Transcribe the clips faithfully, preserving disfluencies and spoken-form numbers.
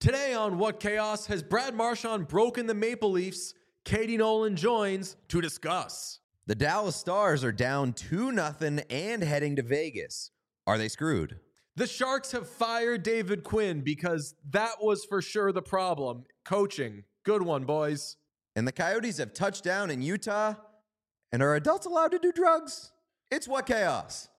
Today on What Chaos, has Brad Marchand broken the Maple Leafs? Katie Nolan joins to discuss. The Dallas Stars are down two nothing and heading to Vegas. Are they screwed? The Sharks have fired David Quinn because that was for sure the problem. Coaching. Good one, boys. And the Coyotes have touched down in Utah. And are adults allowed to do drugs? It's What Chaos.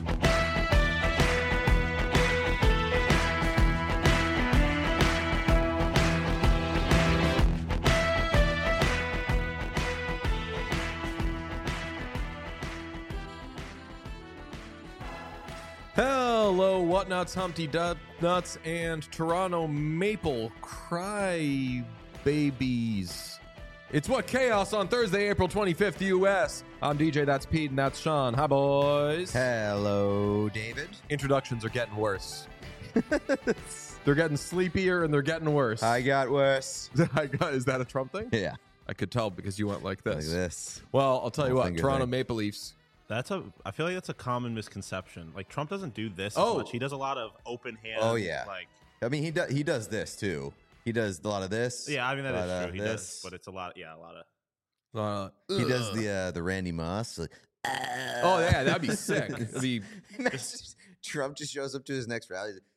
Hello, Whatnuts, Humpty Dut Nuts, and Toronto Maple Cry Babies. It's What Chaos on Thursday, April twenty-fifth, U S. I'm D J, that's Pete, and that's Sean. Hi, boys. Hello, David. Introductions are getting worse. They're getting sleepier and they're getting worse. I got worse. I got, is that a Trump thing? Yeah. I could tell because you went like this. Like this. Well, I'll tell you Whole what, finger Toronto thing. Maple Leafs. That's a. I feel like that's a common misconception. Like Trump doesn't do this Oh. as much. He does a lot of open hand. Oh, yeah. Like I mean, he, do, he does this, too. He does a lot of this. yeah, I mean that a is lot true. of He this. does, but it's a lot. Yeah, a lot of. Uh, He does ugh. the uh, the Randy Moss. Like, Oh, yeah, that'd be sick. It'd be, Trump just shows up to his next rally. He's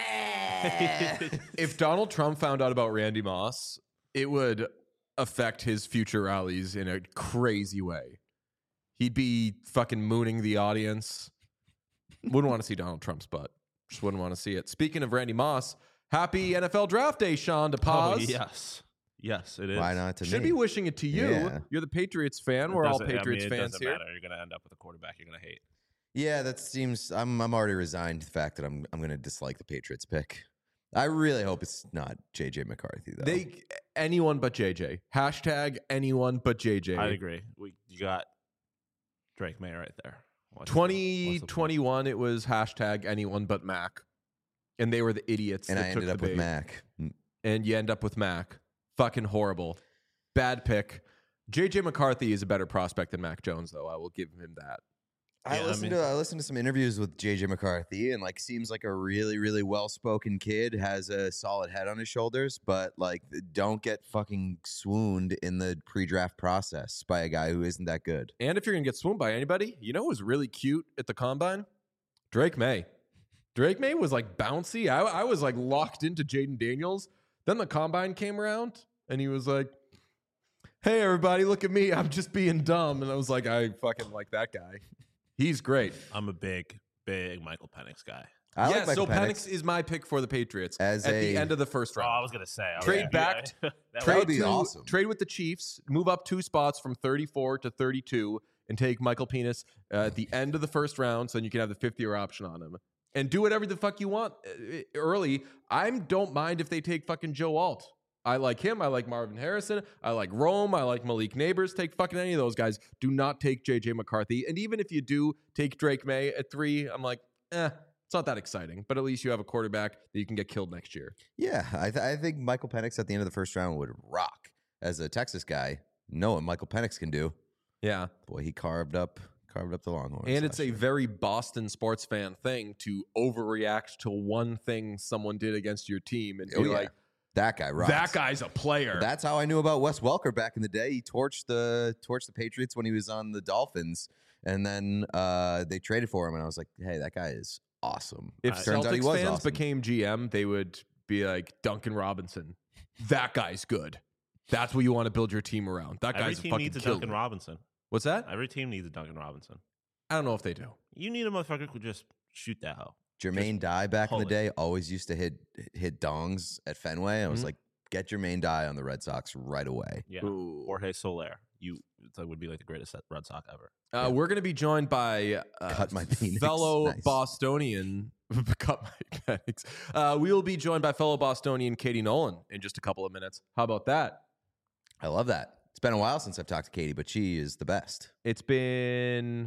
like, if Donald Trump found out about Randy Moss, it would affect his future rallies in a crazy way. He'd be fucking mooning the audience. Wouldn't want to see Donald Trump's butt. Just wouldn't want to see it. Speaking of Randy Moss, happy N F L Draft Day, Sean. To pause. Oh, yes, yes, it is. Why not to Should me? be wishing it to you. Yeah. You're the Patriots fan. It We're all doesn't- I mean, Patriots it fans doesn't here. matter. You're gonna end up with a quarterback you're gonna hate. Yeah, that seems. I'm. I'm already resigned to the fact that I'm. I'm going to dislike the Patriots pick. I really hope it's not J J McCarthy though. They anyone but J J. Hashtag anyone but J J. I agree. We you got Drake May right there. What's the- twenty what's the point? twenty-one, it was hashtag anyone but Mac. And they were the idiots and that I took ended the up with bait. Mac. Mm. And you end up with Mac. Fucking horrible. Bad pick. J J McCarthy is a better prospect than Mac Jones, though. I will give him that. I Yeah, I listened mean- to. I listened to some interviews with J J McCarthy, and like seems like a really, really well spoken kid. Has a solid head on his shoulders, but like don't get fucking swooned in the pre-draft process by a guy who isn't that good. And if you're going to get swooned by anybody, you know who's really cute at the combine? Drake May. Drake May was like bouncy. I, I was like locked into Jaden Daniels. Then the combine came around, and he was like, hey, everybody, look at me. I'm just being dumb. And I was like, I fucking like that guy. He's great. I'm a big, big Michael Penix guy. I yeah, like Michael so Penix is my pick for the Patriots As at a- the end of the first Oh, round. I was gonna say I Trade would- back- that trade would be to- awesome. Trade with the Chiefs, move up two spots from thirty-four to thirty-two, and take Michael Penix uh, at the end of the first round, so then you can have the fifth-year option on him. And do whatever the fuck you want uh, early. I don't mind if they take fucking Joe Alt. I like him. I like Marvin Harrison. I like Rome. I like Malik Neighbors. Take fucking any of those guys. Do not take J J McCarthy. And even if you do take Drake May at three, I'm like, eh, it's not that exciting. But at least you have a quarterback that you can get killed next year. Yeah, I, th- I think Michael Penix at the end of the first round would rock. As a Texas guy, know what Michael Penix can do. Yeah. Boy, he carved up, carved up the Longhorns. And it's last a year. very Boston sports fan thing to overreact to one thing someone did against your team and be Oh, yeah. like, that guy rocks. that guy's a player. That's how I knew about Wes Welker back in the day. He torched the torched the Patriots when he was on the Dolphins, and then uh, they traded for him, and I was like, "Hey, that guy is awesome." if Uh, Turns out he Celtics was fans awesome. became G M, they would be like, Duncan Robinson, that guy's good. That's what you want to build your team around. That Every guy's a team fucking needs a killer. Duncan Robinson. What's that? Every team needs a Duncan Robinson. I don't know if they do. You need a motherfucker who could just shoot that hoe. Jermaine Dye back in the pull it. day always used to hit hit dongs at Fenway. I was Mhm. like, "Get Jermaine Dye on the Red Sox right away." Yeah. Ooh. Jorge Soler. You that would be like the greatest Red Sox ever. Uh, we're going to be joined by uh, Cut my penis. fellow Nice. Bostonian. Cut my penis. Uh, we will be joined by fellow Bostonian Katie Nolan in just a couple of minutes. How about that? I love that. It's been a while since I've talked to Katie, but she is the best. It's been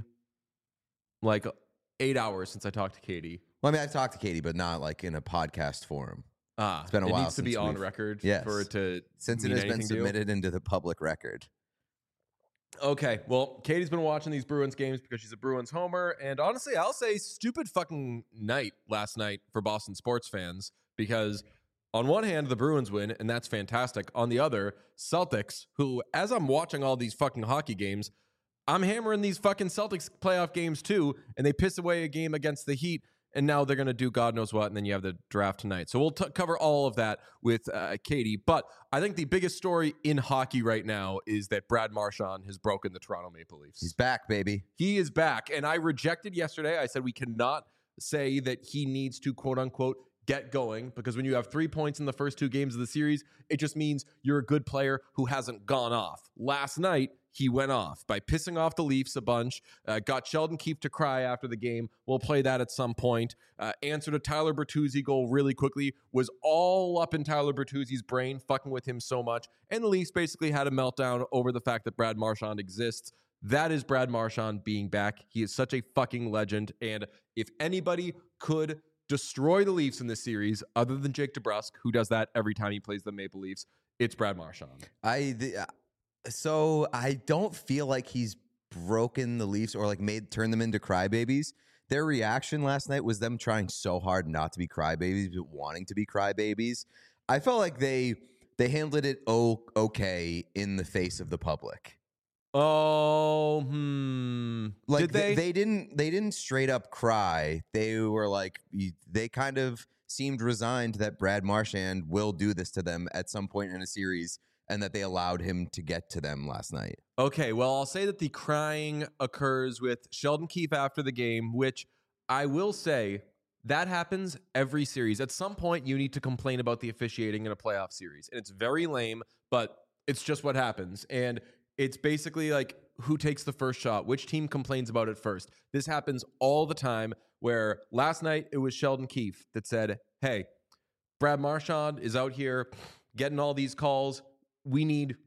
like eight hours since I talked to Katie. Well, I mean, I've talked to Katie, but not like in a podcast forum. Ah, It's been a it while needs to be since on we've- record Yes. for it to Since it mean has been anything to you? submitted into the public record. Okay, well, Katie's been watching these Bruins games because she's a Bruins homer, and honestly, I'll say stupid fucking night last night for Boston sports fans because on one hand, the Bruins win, and that's fantastic. On the other, Celtics, who, as I'm watching all these fucking hockey games, I'm hammering these fucking Celtics playoff games too, and they piss away a game against the Heat, and now they're going to do God knows what, and then you have the draft tonight. So we'll t- cover all of that with uh, Katie. But I think the biggest story in hockey right now is that Brad Marchand has broken the Toronto Maple Leafs. He's back, baby. He is back, and I rejected yesterday. I said we cannot say that he needs to, quote unquote, get going, because when you have three points in the first two games of the series, it just means you're a good player who hasn't gone off. Last night, he went off by pissing off the Leafs a bunch, uh, got Sheldon Keefe to cry after the game. We'll play that at some point. Uh, answered a Tyler Bertuzzi goal really quickly, was all up in Tyler Bertuzzi's brain, fucking with him so much. And the Leafs basically had a meltdown over the fact that Brad Marchand exists. That is Brad Marchand being back. He is such a fucking legend. And if anybody could destroy the Leafs in this series, other than Jake DeBrusk, who does that every time he plays the Maple Leafs, it's Brad Marchand. I the, uh, so I don't feel like he's broken the Leafs or like made turn them into crybabies. Their reaction last night was them trying so hard not to be crybabies, but wanting to be crybabies. I felt like they they handled it o- okay in the face of the public. Oh, hmm. Like Did they? they? they didn't they didn't straight up cry. They were like they kind of seemed resigned that Brad Marchand will do this to them at some point in a series, and that they allowed him to get to them last night. Okay, well, I'll say that the crying occurs with Sheldon Keefe after the game, which I will say that happens every series. At some point, you need to complain about the officiating in a playoff series, and it's very lame, but it's just what happens. And it's basically like who takes the first shot, which team complains about it first. This happens all the time, where last night it was Sheldon Keefe that said, hey, Brad Marchand is out here getting all these calls. We need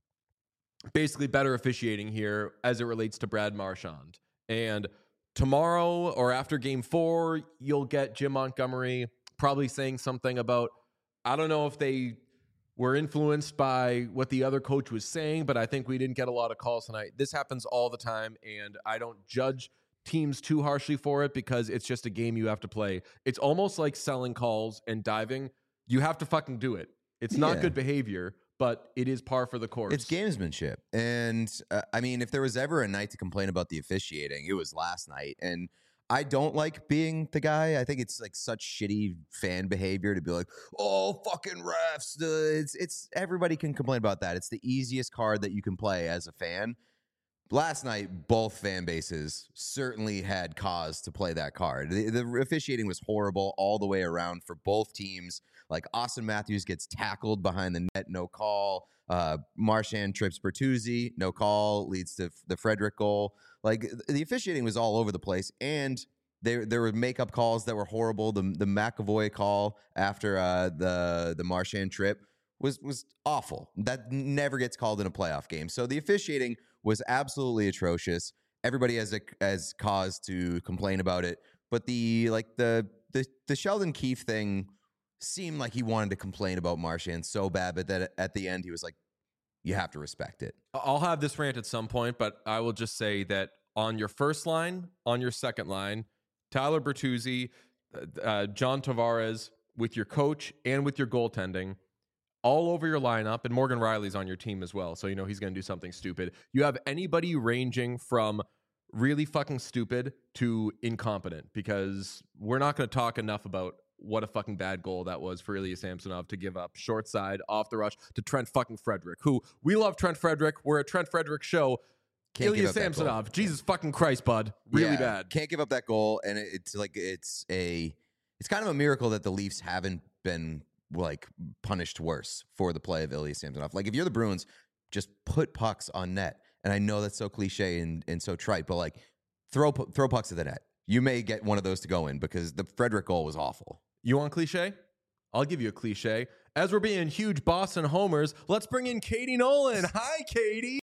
basically better officiating here as it relates to Brad Marchand. And tomorrow or after game four, you'll get Jim Montgomery probably saying something about, I don't know if they were influenced by what the other coach was saying, but I think we didn't get a lot of calls tonight. This happens all the time, and I don't judge teams too harshly for it because it's just a game you have to play. It's almost like selling calls and diving. You have to fucking do it. It's not Yeah. good behavior, but it is par for the course. It's gamesmanship. And uh, I mean, if there was ever a night to complain about the officiating, it was last night. And I don't like being the guy. I think it's like such shitty fan behavior to be like, oh, fucking refs. Uh, It's, it's everybody can complain about that. It's the easiest card that you can play as a fan. Last night, both fan bases certainly had cause to play that card. The, the officiating was horrible all the way around for both teams. Like Austin Matthews gets tackled behind the net, no call. Uh, Marchand trips Bertuzzi, no call, leads to the Frederick goal. Like the officiating was all over the place, and there there were makeup calls that were horrible. The the McAvoy call after uh, the the Marchand trip was was awful. That never gets called in a playoff game. So the officiating was absolutely atrocious. Everybody has a has cause to complain about it, but the like the the the Sheldon Keefe thing seemed like he wanted to complain about Marchand so bad, but that at the end he was like, you have to respect it. I'll have this rant at some point, but I will just say that on your first line, on your second line, Tyler Bertuzzi, uh, John Tavares, with your coach and with your goaltending, all over your lineup, and Morgan Riley's on your team as well, so you know he's going to do something stupid. You have anybody ranging from really fucking stupid to incompetent, because we're not going to talk enough about what a fucking bad goal that was for Ilya Samsonov to give up short side off the rush to Trent fucking Frederick, who we love Trent Frederick. We're a Trent Frederick show. Can't Ilya give up that goal. Samsonov, Jesus fucking Christ, bud. Really Yeah, bad. Can't give up that goal, and it- it's like it's a it's kind of a miracle that the Leafs haven't been like punished worse for the play of Ilya Samsonov. Like if you're the Bruins, just put pucks on net. And I know that's so cliche and, and so trite, but like throw pu- throw pucks at the net. You may get one of those to go in because the Frederick goal was awful. You want cliche? I'll give you a cliche. As we're being huge Boston homers, let's bring in Katie Nolan. Hi, Katie.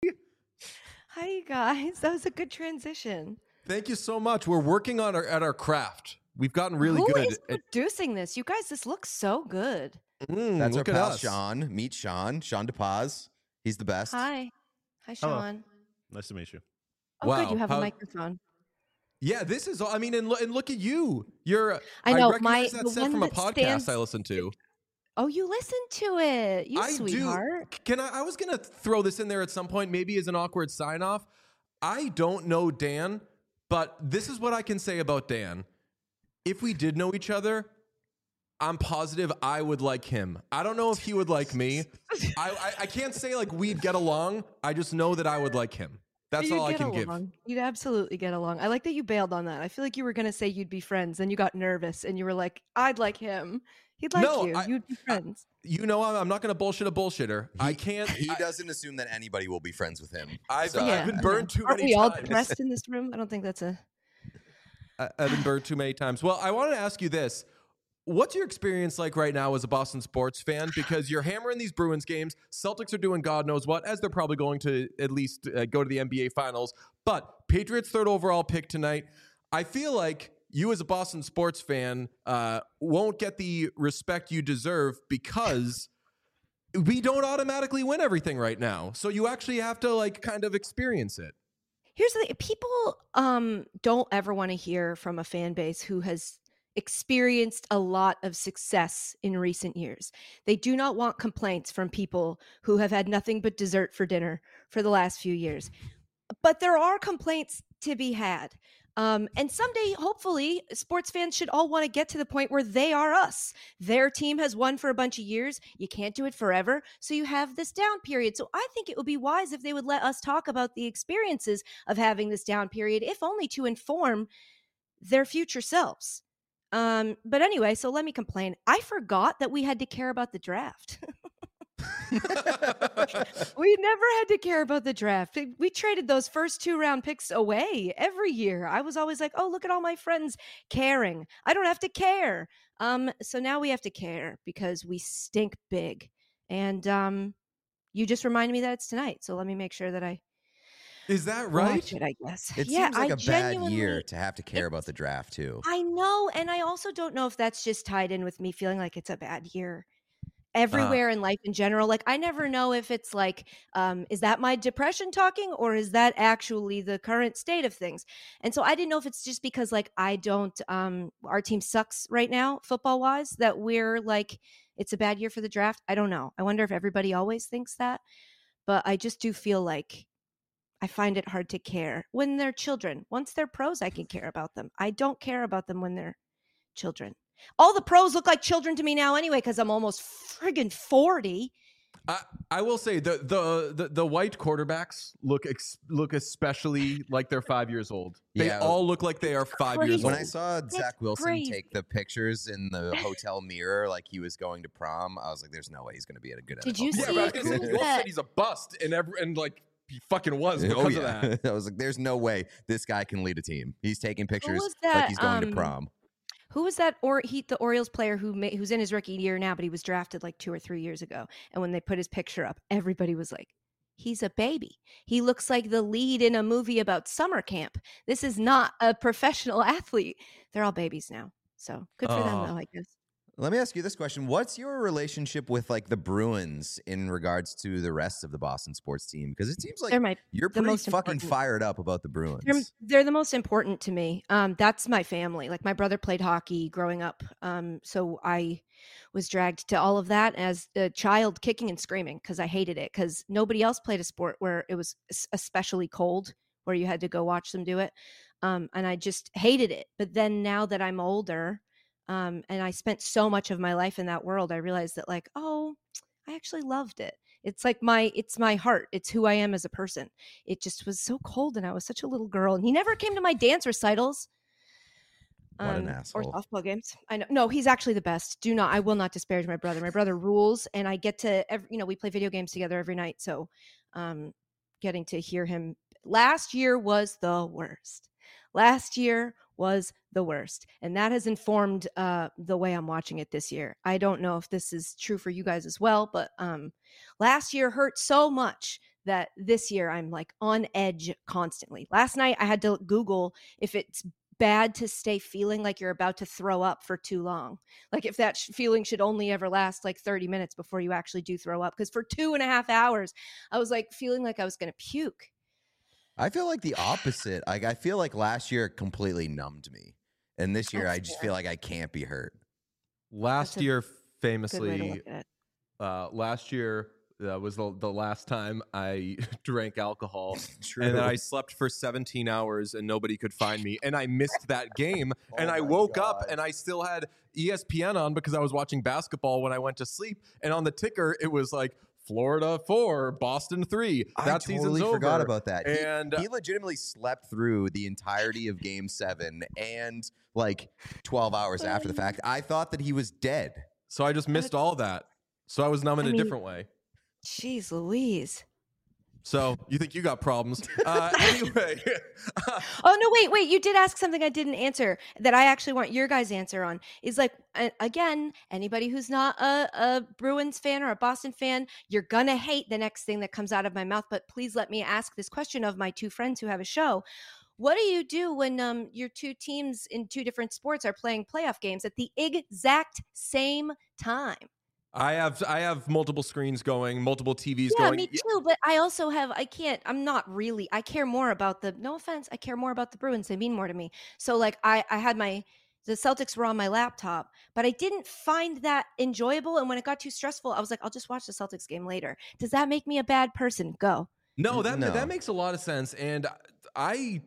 Hi, you guys. That was a good transition. Thank you so much. We're working on our at our craft. We've gotten really Who good. is producing this? You guys, this looks so good. Mm, That's our look at pal us. Sean. Meet Sean. Sean DePaz. He's the best. Hi. Hi, Hello. Sean. Nice to meet you. Oh, Wow, good. You have how- a microphone. Yeah, this is. all I mean, and, lo- and look at you. You're. I know, recognize my- that the set one from a that podcast stands- I listen to. Oh, you listen to it, you I sweetheart. do. Can I? I was gonna throw this in there at some point, maybe as an awkward sign off. I don't know Dan, but this is what I can say about Dan. If we did know each other, I'm positive I would like him. I don't know if he would like me. I, I I can't say like we'd get along. I just know that I would like him. That's You'd all I get can give. along. You'd absolutely get along. I like that you bailed on that. I feel like you were gonna say you'd be friends, then you got nervous and you were like, "I'd like him. He'd like No, you. I- You'd be friends." You know, I'm, I'm not going to bullshit a bullshitter. I can't. He I, doesn't assume that anybody will be friends with him. I've, So- I've been Yeah. burned too Aren't many we all times. depressed in this room? I don't think that's a. I- I've been burned too many times. Well, I wanted to ask you this. What's your experience like right now as a Boston sports fan? Because you're hammering these Bruins games. Celtics are doing God knows what, as they're probably going to at least uh, go to the N B A Finals. But Patriots' third overall pick tonight. I feel like you as a Boston sports fan uh, won't get the respect you deserve because we don't automatically win everything right now. So you actually have to like kind of experience it. Here's the thing. People um don't ever want to hear from a fan base who has experienced a lot of success in recent years. They do not want complaints from people who have had nothing but dessert for dinner for the last few years. But there are complaints to be had. Um, and someday, hopefully, sports fans should all want to get to the point where they are us. Their team has won for a bunch of years. You can't do it forever. So you have this down period. So I think it would be wise if they would let us talk about the experiences of having this down period, if only to inform their future selves. Um, but anyway, so let me complain. I forgot that we had to care about the draft. We never had to care about the draft. We traded those first two round picks away every year. I was always like, oh, look at all my friends caring. I don't have to care. Um, so now we have to care because we stink big. And um, you just reminded me that it's tonight. So let me make sure that I Is that right? watch it, I guess. It yeah, seems like I a bad genuinely- year to have to care about it's- the draft too. I know. And I also don't know if that's just tied in with me feeling like it's a bad year everywhere in life in general. Like, I never know if it's like, um, is that my depression talking or is that actually the current state of things? And so I didn't know if it's just because like I don't, um, our team sucks right now, football wise, that we're like, it's a bad year for the draft. I don't know. I wonder if everybody always thinks that. But I just do feel like I find it hard to care when they're children. Once they're pros, I can care about them. I don't care about them when they're children. All the pros look like children to me now anyway, because I'm almost friggin' forty. I, I will say the, the the the white quarterbacks look ex, look especially like they're five years old. They Yeah. all look like they are five years crazy. When old. I saw Zach Wilson crazy. take the pictures in the hotel mirror like he was going to prom, I was like, "There's no way he's going to be at a good." Did N F L you yeah, see but I was quarterback." gonna say, who's you also that- said he's a bust, and every, and like he fucking was because oh of yeah, that. I was like, "There's no way this guy can lead a team. He's taking pictures was like that, he's going um, to prom." Who was that? Or he, the Orioles player who ma- who's in his rookie year now, but he was drafted like two or three years ago. And when they put his picture up, everybody was like, "He's a baby. He looks like the lead in a movie about summer camp. This is not a professional athlete." They're all babies now, so good for them Oh. though, I guess. Let me ask you this question. What's your relationship with like the Bruins in regards to the rest of the Boston sports team? Because it seems like They're my you're the pretty most fucking important. fired up about the Bruins. They're, they're the most important to me. Um, that's my family. Like my brother played hockey growing up. Um, so I was dragged to all of that as a child, kicking and screaming because I hated it because nobody else played a sport where it was es- especially cold, where you had to go watch them do it. Um, and I just hated it. But then now that I'm older, um, and I spent so much of my life in that world, I realized that like, oh, I actually loved it. It's like my, it's my heart. It's who I am as a person. It just was so cold and I was such a little girl. And he never came to my dance recitals. What an Or asshole. softball games. I know. No, he's actually the best. Do not, I will not disparage my brother. My brother rules and I get to, every, you know, we play video games together every night. So um, getting to hear him last year was the worst. Last year was the worst. And that has informed uh, the way I'm watching it this year. I don't know if this is true for you guys as well, but um, last year hurt so much that this year I'm like on edge constantly. Last night I had to Google if it's bad to stay feeling like you're about to throw up for too long. Like if that sh- feeling should only ever last like thirty minutes before you actually do throw up. Because for two and a half hours, I was like feeling like I was going to puke. I feel like the opposite. Like I feel like last year completely numbed me, and this year That's I just fair. feel like I can't be hurt. Last That's a- year famously, look at it. uh, last year uh, was the, the last time I drank alcohol. True. And then I slept for seventeen hours and nobody could find me. And I missed that game. and Oh I my woke up God. and I still had E S P N on because I was watching basketball when I went to sleep. And on the ticker, it was like Florida four, Boston three. That I totally season's over. forgot about that. He- And he, legitimately slept through the entirety of Game Seven and like twelve hours after the fact. I thought that he was dead. so I just missed all that. So I was numb in I a mean- different way. Jeez Louise. So you think you got problems? Uh, anyway, Oh no, wait, wait. You did ask something I didn't answer that I actually want your guys' answer on. Is like uh, again, anybody who's not a, a Bruins fan or a Boston fan, you're gonna hate the next thing that comes out of my mouth. But please let me ask this question of my two friends who have a show. What do you do when um, your two teams in two different sports are playing playoff games at the exact same time? I have I have multiple screens going, multiple T Vs Yeah, going. me too. But I also have, I can't, I'm not really, I care more about the, no offense, I care more about the Bruins. They mean more to me. So like I, I had my, the Celtics were on my laptop, but I didn't find that enjoyable. And when it got too stressful, I was like, I'll just watch the Celtics game later. Does that make me a bad person? Go. No, that No. that makes a lot of sense, and I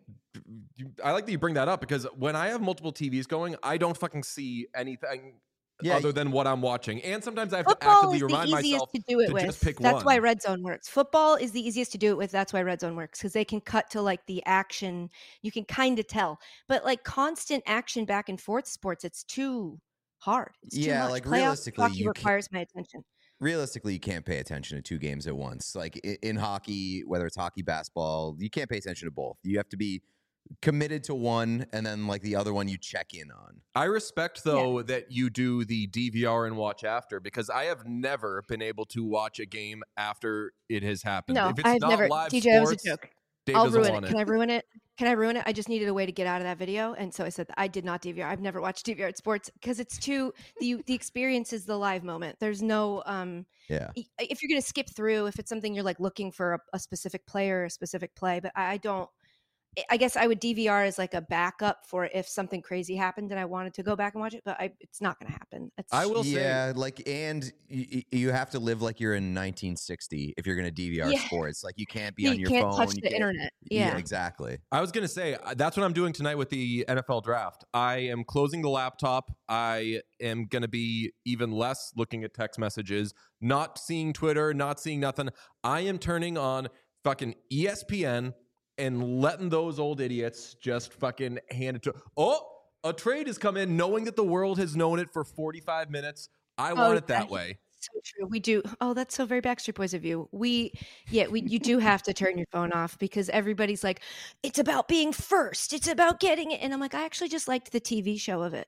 I like that you bring that up because when I have multiple T Vs going, I don't fucking see anything Yeah, other y- than what I'm watching, and sometimes I have to Football actively is the remind easiest myself to do it to with. just pick That's why one. Red Zone works. Football is the easiest to do it with. That's why Red Zone works because they can cut to like the action. You can kind of tell, but like constant action back and forth sports, it's too hard. It's too Yeah, much. like, Playoff realistically, hockey you can't- requires my attention. realistically, you can't pay attention to two games at once. Like in, in hockey, whether it's hockey, basketball, you can't pay attention to both. You have to be committed to one, and then like the other one you check in on. I respect though that you do the D V R and watch after because I have never been able to watch a game after it has happened. No, if it's I've not never. live D J, that was a sports, joke. Dave I'll doesn't ruin it. want Can I ruin it? Can I ruin it? I just needed a way to get out of that video, and so I said that I did not D V R. I've never watched D V R at sports because it's too the the experience is the live moment. There's no um. Yeah. y- If you're gonna skip through, if it's something you're like looking for a, a specific player, or a specific play, but I I don't. I- I guess I would D V R as like a backup for if something crazy happened and I wanted to go back and watch it, but I, it's not going to happen. It's, I will say- yeah, like, and y- y- you have to live like you're in nineteen sixty if you're going to D V R Yeah. sports. Like, you can't be you on your can't phone. touch you the can't- internet. Yeah. exactly. I was going to say uh, that's what I'm doing tonight with the N F L draft. I am closing the laptop. I am going to be even less looking at text messages, not seeing Twitter, not seeing nothing. I am turning on fucking E S P N and letting those old idiots just fucking hand it to. Oh, a trade has come in knowing that the world has known it for forty-five minutes. I want Oh, it that yeah. way. So true. We do. Oh, that's so very Backstreet Boys of you. We, yeah, we. You do have to turn your phone off because everybody's like, it's about being first. It's about getting it, and I'm like, I actually just liked the T V show of it.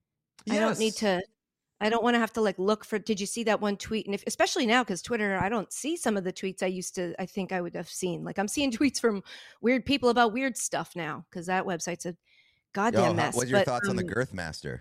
I don't need Yes. to. I don't want to have to like look for. Did you see that one tweet? And if, especially now, because Twitter, I don't see some of the tweets I used to. I think I would have seen. Like I'm seeing tweets from weird people about weird stuff now because that website's a goddamn Yo, how- mess. what's your But, thoughts on the um, Girth Master?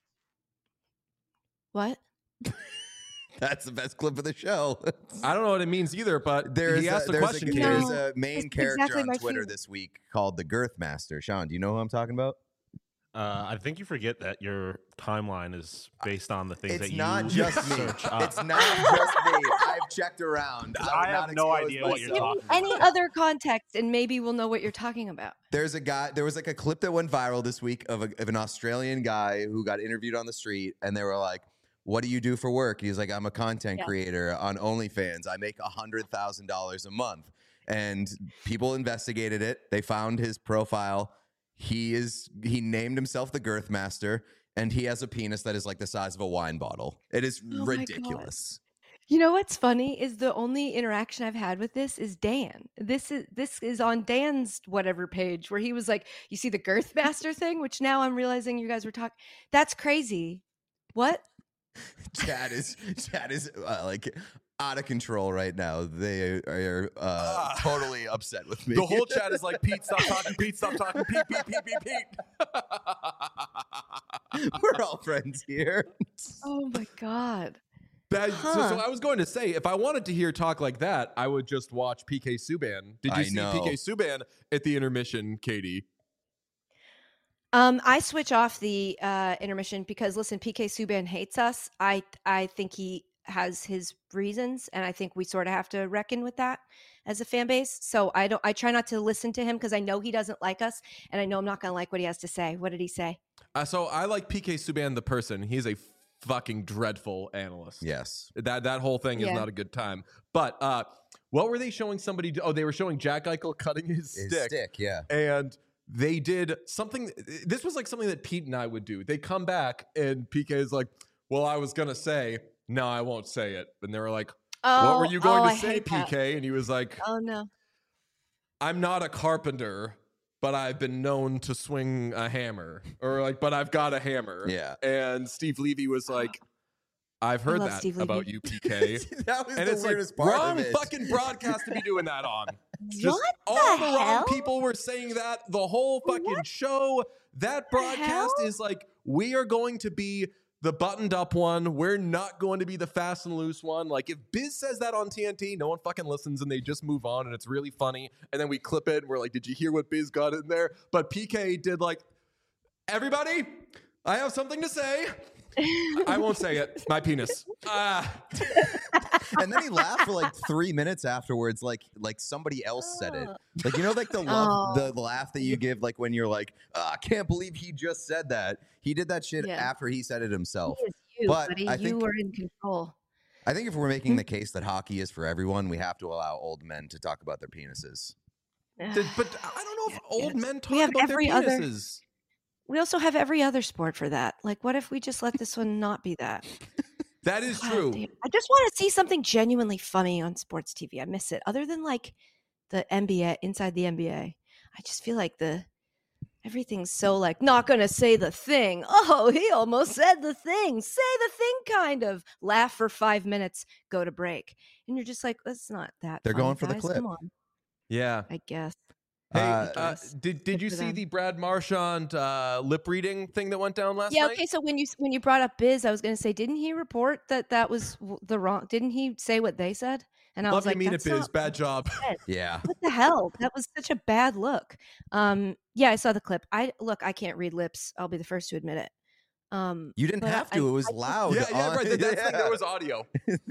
What? That's the best clip of the show. I don't know what it means either, but There's he a, asked a there's, question. a, Katie. there's No, a main it's character exactly on my Twitter favorite. this week called the Girth Master. Sean, do you know who I'm talking about? Uh, I think you forget that your timeline is based on the things It's that you not just me. search up. It's not just me. I've checked around. I would have not no expose idea what you're myself. talking Any about. other context, and maybe we'll know what you're talking about. There's a guy. There was like a clip that went viral this week of, a, of an Australian guy who got interviewed on the street, and they were like, "What do you do for work?" He's like, "I'm a content Yeah. creator on OnlyFans. I make a hundred thousand dollars a month." And people investigated it. They found his profile. He is. He named himself the Girth Master, and he has a penis that is like the size of a wine bottle. It is Oh my God. ridiculous. You know what's funny is the only interaction I've had with this is Dan. This is this is on Dan's whatever page where he was like, "You see the Girth Master thing," which now I'm realizing you guys were talking. That's crazy. What? Chad is Chad is uh, like out of control right now. They are uh, Ah. totally upset with me. The whole chat is like, Pete, stop talking. Pete, stop talking. Pete, Pete, Pete, Pete, Pete. We're all friends here. Oh my God. That- so, so Huh. I was going to say, if I wanted to hear talk like that, I would just watch P K Subban. Did you I see know. P K Subban at the intermission, Katie? Um, I switch off the uh, intermission because listen, P K Subban hates us. I I think he has his reasons, and I think we sort of have to reckon with that as a fan base. So I don't. I try not to listen to him because I know he doesn't like us, and I know I'm not going to like what he has to say. What did he say? Uh, so I like P K Subban the person. He's a fucking dreadful analyst. Yes. That that whole thing is Yeah. not a good time. But uh, what were they showing somebody? Do? Oh, they were showing Jack Eichel cutting his, His stick, stick, yeah. and they did something. This was like something that Pete and I would do. They come back, and P K is like, "Well, I was gonna say, no, I won't say it." And they were like, Oh, "What were you going oh, to I say, hate that. P K?" And he was like, Oh no. I'm not a carpenter, but I've been known to swing a hammer, or like, but I've got a hammer. Yeah. And Steve Levy was like, I've heard love that Steve about Levy. you, P K. That was And the it's like weirdest part wrong of it. fucking broadcast to be doing that on. Just What all the the wrong hell? people were saying that the whole fucking What show. That the broadcast hell? is like, we are going to be the buttoned up one. We're not going to be the fast and loose one. Like if Biz says that on T N T, no one fucking listens and they just move on and it's really funny. And then we clip it and we're like, did you hear what Biz got in there? But P K did like, everybody, I have something to say. I won't say it. My penis. Ah. And then he laughed for like three minutes afterwards, like like somebody else said it. Like you know, like the love, Oh. the laugh that you give, like when you're like, oh, I can't believe he just said that. He did that shit Yeah. after he said it himself. It is you, But buddy. I you think- were in control. I think if we're making the case that hockey is for everyone, we have to allow old men to talk about their penises. Did- but I don't know if old Yes. men We talk have about their every other- penises. We also have every other sport for that. Like, what if we just let this one not be that? That is God true. damn. I just want to see something genuinely funny on sports T V. I miss it. Other than like the N B A, inside the N B A, I just feel like the everything's so like not gonna say the thing. Oh, he almost said the thing. Say the thing, kind of. Laugh for five minutes, go to break, and you're just like, that's not that. They're funny, going for the guys. clip. Come on, Yeah. I guess. Hey, Uh, uh, guess. did did Good you for see them. the Brad Marchand uh, lip reading thing that went down last Yeah. night? Okay. So when you when you brought up Biz, I was gonna say, didn't he report that that was w- the wrong? Didn't he say what they said? And I Love was you like, mean it, that's Biz. not Bad job. Yeah. what the hell? That was such a bad look. Um, yeah, I saw the clip. I look, I can't read lips. I'll be the first to admit it. Um, You didn't but have I- to. It was I think- loud. yeah, yeah, on- right. That, that's the thing. yeah. There was audio.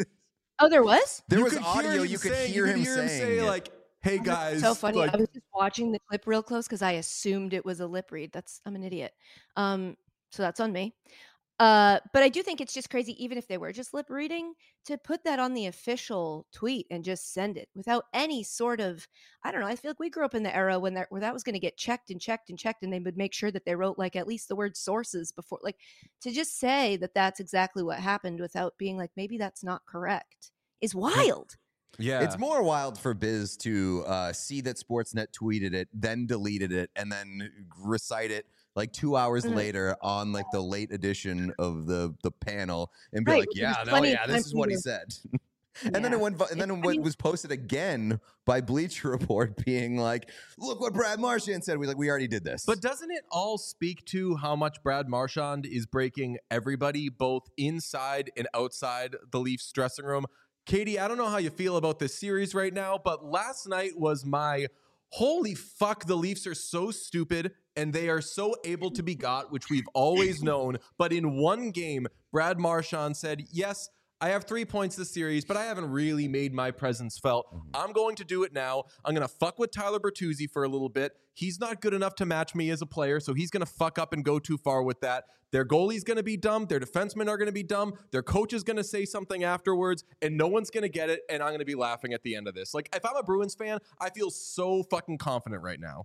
Oh, there was. There You was could audio. hear him You could saying- hear you him could hear him saying say it. like, "Hey Oh, that's guys." so funny. Like, I was just watching the clip real close because I assumed it was a lip read. That's I'm an idiot. Um, so that's on me. Uh, but I do think it's just crazy, even if they were just lip reading, to put that on the official tweet and just send it without any sort of, I don't know. I feel like we grew up in the era when that where that was going to get checked and checked and checked, and they would make sure that they wrote like at least the word sources before, like to just say that that's exactly what happened without being like maybe that's not correct is wild. yeah. It's more wild for Biz to uh, see that Sportsnet tweeted it, then deleted it, and then recite it like two hours Mhm. later on like the late edition of the the panel, and be Right, like, which "Yeah, was no, plenty yeah, of this time is for what you he to- said." And then Yeah. it went, and then It's- it I mean- was posted again by Bleacher Report, being like, "Look what Brad Marchand said." We like, we already did this. But doesn't it all speak to how much Brad Marchand is breaking everybody, both inside and outside the Leafs dressing room? Katie, I don't know how you feel about this series right now, but last night was my holy fuck, the Leafs are so stupid and they are so able to be got, which we've always known. But in one game, Brad Marchand said, yes, I have three points this series, but I haven't really made my presence felt. I'm going to do it now. I'm going to fuck with Tyler Bertuzzi for a little bit. He's not good enough to match me as a player, so he's going to fuck up and go too far with that. Their goalie's going to be dumb. Their defensemen are going to be dumb. Their coach is going to say something afterwards, and no one's going to get it, and I'm going to be laughing at the end of this. Like, if I'm a Bruins fan, I feel so fucking confident right now.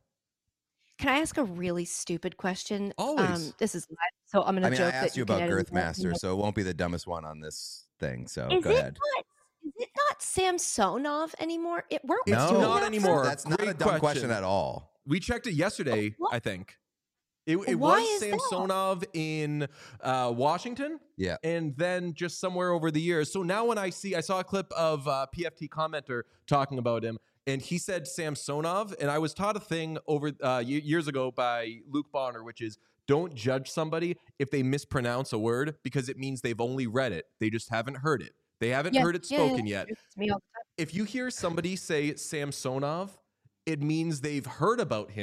Can I ask a really stupid question? Always. Um, this is live, so I'm going to I mean, joke I that asked you can about edit it out. Girthmaster, so it won't be the dumbest one on this thing. So Is go it ahead. not? Is it not Samsonov anymore? It weren't we It's doing not that for- anymore. That's not a Great dumb question. question. at all. We checked it yesterday, What? I think. It, it Why was is that? Samsonov in uh, Washington. Yeah. And then just somewhere over the years. So now when I see, I saw a clip of uh, P F T commenter talking about him, and he said Samsonov. And I was taught a thing over uh, y- years ago by Luke Bonner, which is don't judge somebody if they mispronounce a word because it means they've only read it. They just haven't heard it. They haven't Yeah, heard it yeah, yeah, spoken yet. It's me all the time. If you hear somebody say Samsonov, it means they've heard about him,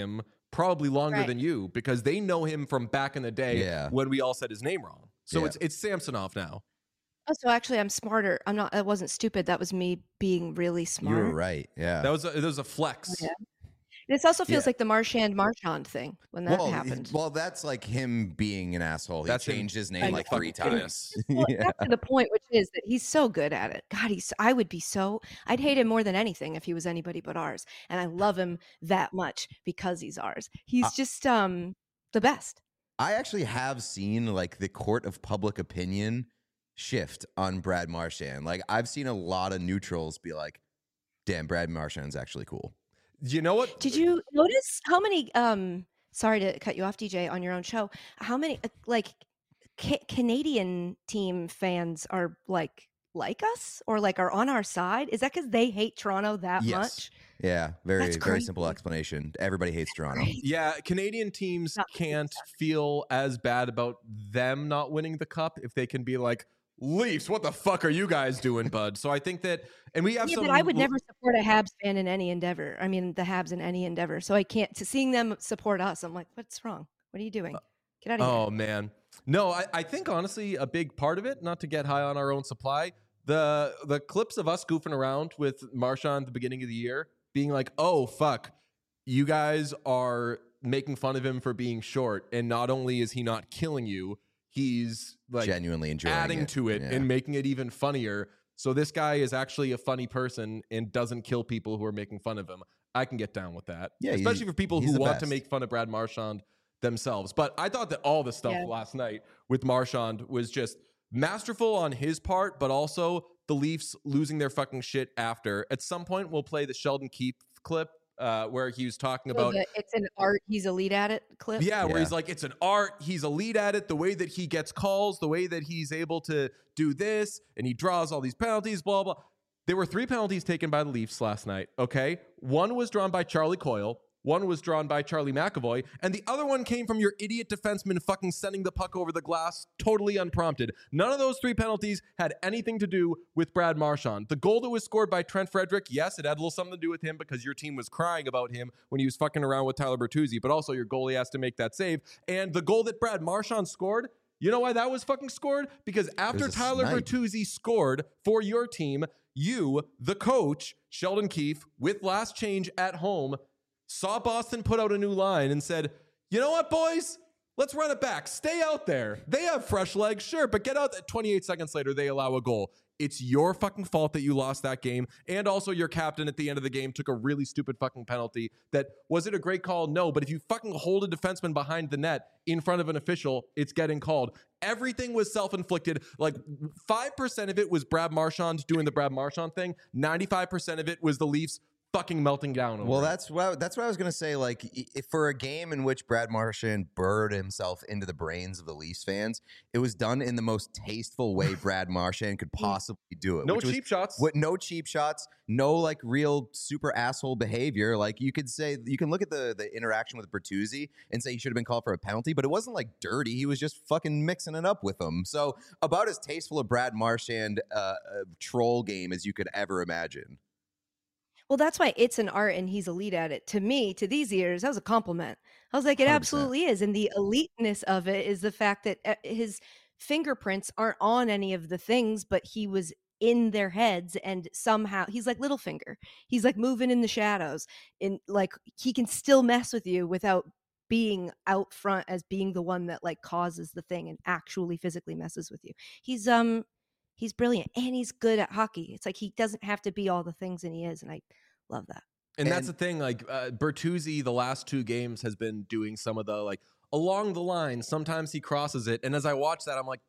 probably longer Right. than you because they know him from back in the day Yeah. when we all said his name wrong. So Yeah. it's it's Samsonov now. Oh, so actually, I'm smarter. I'm not. I wasn't stupid. That was me being really You smart. were right. Yeah. That was a, it was a flex. Yeah. This also feels Yeah. like the Marchand Marchand thing when that well, happened. well, that's like him being an asshole. He That's him changed his I name know. like three Fucking times. Well, yeah. back to the point, which is that he's so good at it. God, he's. I would be so. I'd hate him more than anything if he was anybody but ours, and I love him that much because he's ours. He's Uh, just um the best. I actually have seen like the court of public opinion shift on Brad Marchand. Like I've seen a lot of neutrals be like, "Damn, Brad Marchand's actually cool." You know what? Did you notice how many? Um, sorry to cut you off, D J, on your own show. How many uh, like ca- Canadian team fans are like like us or like are on our side? Is that because they hate Toronto that Yes. much? Yeah, very That's very simple crazy. explanation. Everybody hates Toronto. Right? Yeah, Canadian teams Not can't feel as bad about them not winning the cup if they can be like, Leafs, what the fuck are you guys doing, bud? So I think that, and we have Yeah, some. but I would never support a Habs fan in any endeavor. I mean, the Habs in any endeavor. So I can't. To seeing them support us, I'm like, what's wrong? What are you doing? Get out of Oh here. man, no, I, I think honestly a big part of it, not to get high on our own supply, the the clips of us goofing around with Marchand at the beginning of the year, being like, oh fuck, you guys are making fun of him for being short, and not only is he not killing you, he's like Genuinely enjoying adding it. to it Yeah. and making it even funnier. So this guy is actually a funny person and doesn't kill people who are making fun of him. I can get down with that. Yeah, he's- especially for people he's who the want to best. make fun of Brad Marchand themselves. But I thought that all the stuff Yeah. last night with Marchand was just masterful on his part, but also the Leafs losing their fucking shit after. At some point, we'll play the Sheldon Keefe clip uh, where he was talking So about the, it's an art. He's elite at it. Clip. yeah, where Yeah. he's like, it's an art. He's elite at it. The way that he gets calls, the way that he's able to do this, and he draws all these penalties, blah, blah. There were three penalties taken by the Leafs last night, okay? One was drawn by Charlie Coyle. One was drawn by Charlie McAvoy. And the other one came from your idiot defenseman fucking sending the puck over the glass totally unprompted. None of those three penalties had anything to do with Brad Marchand. The goal that was scored by Trent Frederick, yes, it had a little something to do with him because your team was crying about him when he was fucking around with Tyler Bertuzzi, but also your goalie has to make that save. And the goal that Brad Marchand scored, you know why that was fucking scored? Because after a Tyler snipe. Bertuzzi scored for your team, you, the coach, Sheldon Keefe, with last change at home, saw Boston put out a new line and said, you know what, boys? Let's run it back. Stay out there. They have fresh legs, sure, but get out. twenty-eight seconds later, they allow a goal. It's your fucking fault that you lost that game. And also your captain at the end of the game took a really stupid fucking penalty that, was it a great call? No, but if you fucking hold a defenseman behind the net in front of an official, it's getting called. Everything was self-inflicted. Like five percent of it was Brad Marchand doing the Brad Marchand thing. ninety-five percent of it was the Leafs fucking melting down over Well, it. that's what that's what I was gonna say. Like, i- if for a game in which Brad Marchand burrowed himself into the brains of the Leafs fans, it was done in the most tasteful way Brad Marchand could possibly do it. no which was cheap shots. What, no cheap shots, no like real super asshole behavior. Like you could say, you can look at the the interaction with Bertuzzi and say he should have been called for a penalty, but it wasn't like dirty. He was just fucking mixing it up with them. So about as tasteful a Brad Marchand uh, uh, troll game as you could ever imagine. Well, that's why it's an art and he's elite at it. To me, to these ears, that was a compliment. I was like, it one hundred percent. absolutely is. And the eliteness of it is the fact that uh, his fingerprints aren't on any of the things, but he was in their heads and somehow he's like Littlefinger. He's like moving in the shadows and like he can still mess with you without being out front as being the one that like causes the thing and actually physically messes with you. He's um he's brilliant and he's good at hockey. It's like he doesn't have to be all the things and he is, and I love that. And, that's the And- thing, like uh, Bertuzzi, the last two games has been doing some of the like along the line. Sometimes he crosses it, and as I watch that, I'm like,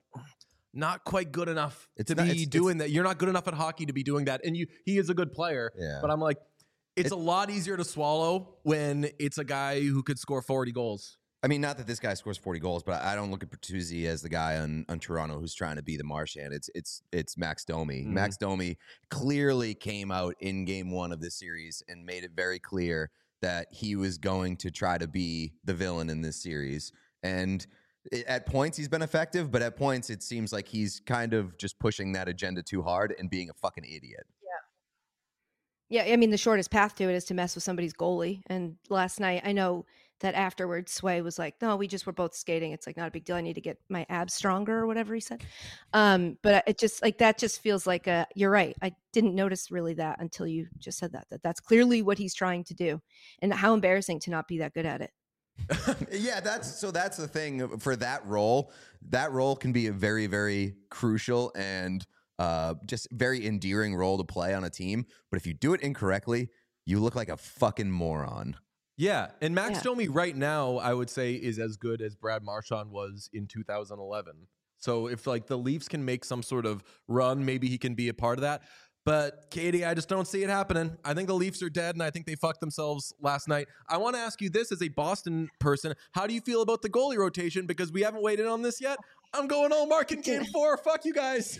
not quite good enough It's to not- be it's- doing that. You're not good enough at hockey to be doing that, and you he is a good player. Yeah. But I'm like, it's It- a lot easier to swallow when it's a guy who could score forty goals. I mean, not that this guy scores forty goals, but I don't look at Bertuzzi as the guy on, on Toronto who's trying to be the Marchand. It's it's it's Max Domi. Mhm. Max Domi clearly came out in game one of this series and made it very clear that he was going to try to be the villain in this series. And i- at points he's been effective, but at points it seems like he's kind of just pushing that agenda too hard and being a fucking idiot. Yeah, I mean the shortest path to it is to mess with somebody's goalie. And last night, I know that afterwards Sway was like, no, we just were both skating. It's like not a big deal. I need to get my abs stronger or whatever he said. Um, but it just like that just feels like a, you're right. I didn't notice really that until you just said that, that that's clearly what he's trying to do. And how embarrassing to not be that good at it. Yeah, that's so that's the thing for that role. That role can be a very, very crucial and uh, just very endearing role to play on a team. But if you do it incorrectly, you look like a fucking moron. Yeah, and Max Yeah. Domi right now, I would say, is as good as Brad Marchand was in two thousand eleven. So if like the Leafs can make some sort of run, maybe he can be a part of that. But Katie, I just don't see it happening. I think the Leafs are dead, and I think they fucked themselves last night. I want to ask you this as a Boston person: how do you feel about the goalie rotation? Because we haven't weighed in on this yet. I'm going all mark in Game Four. Fuck you guys.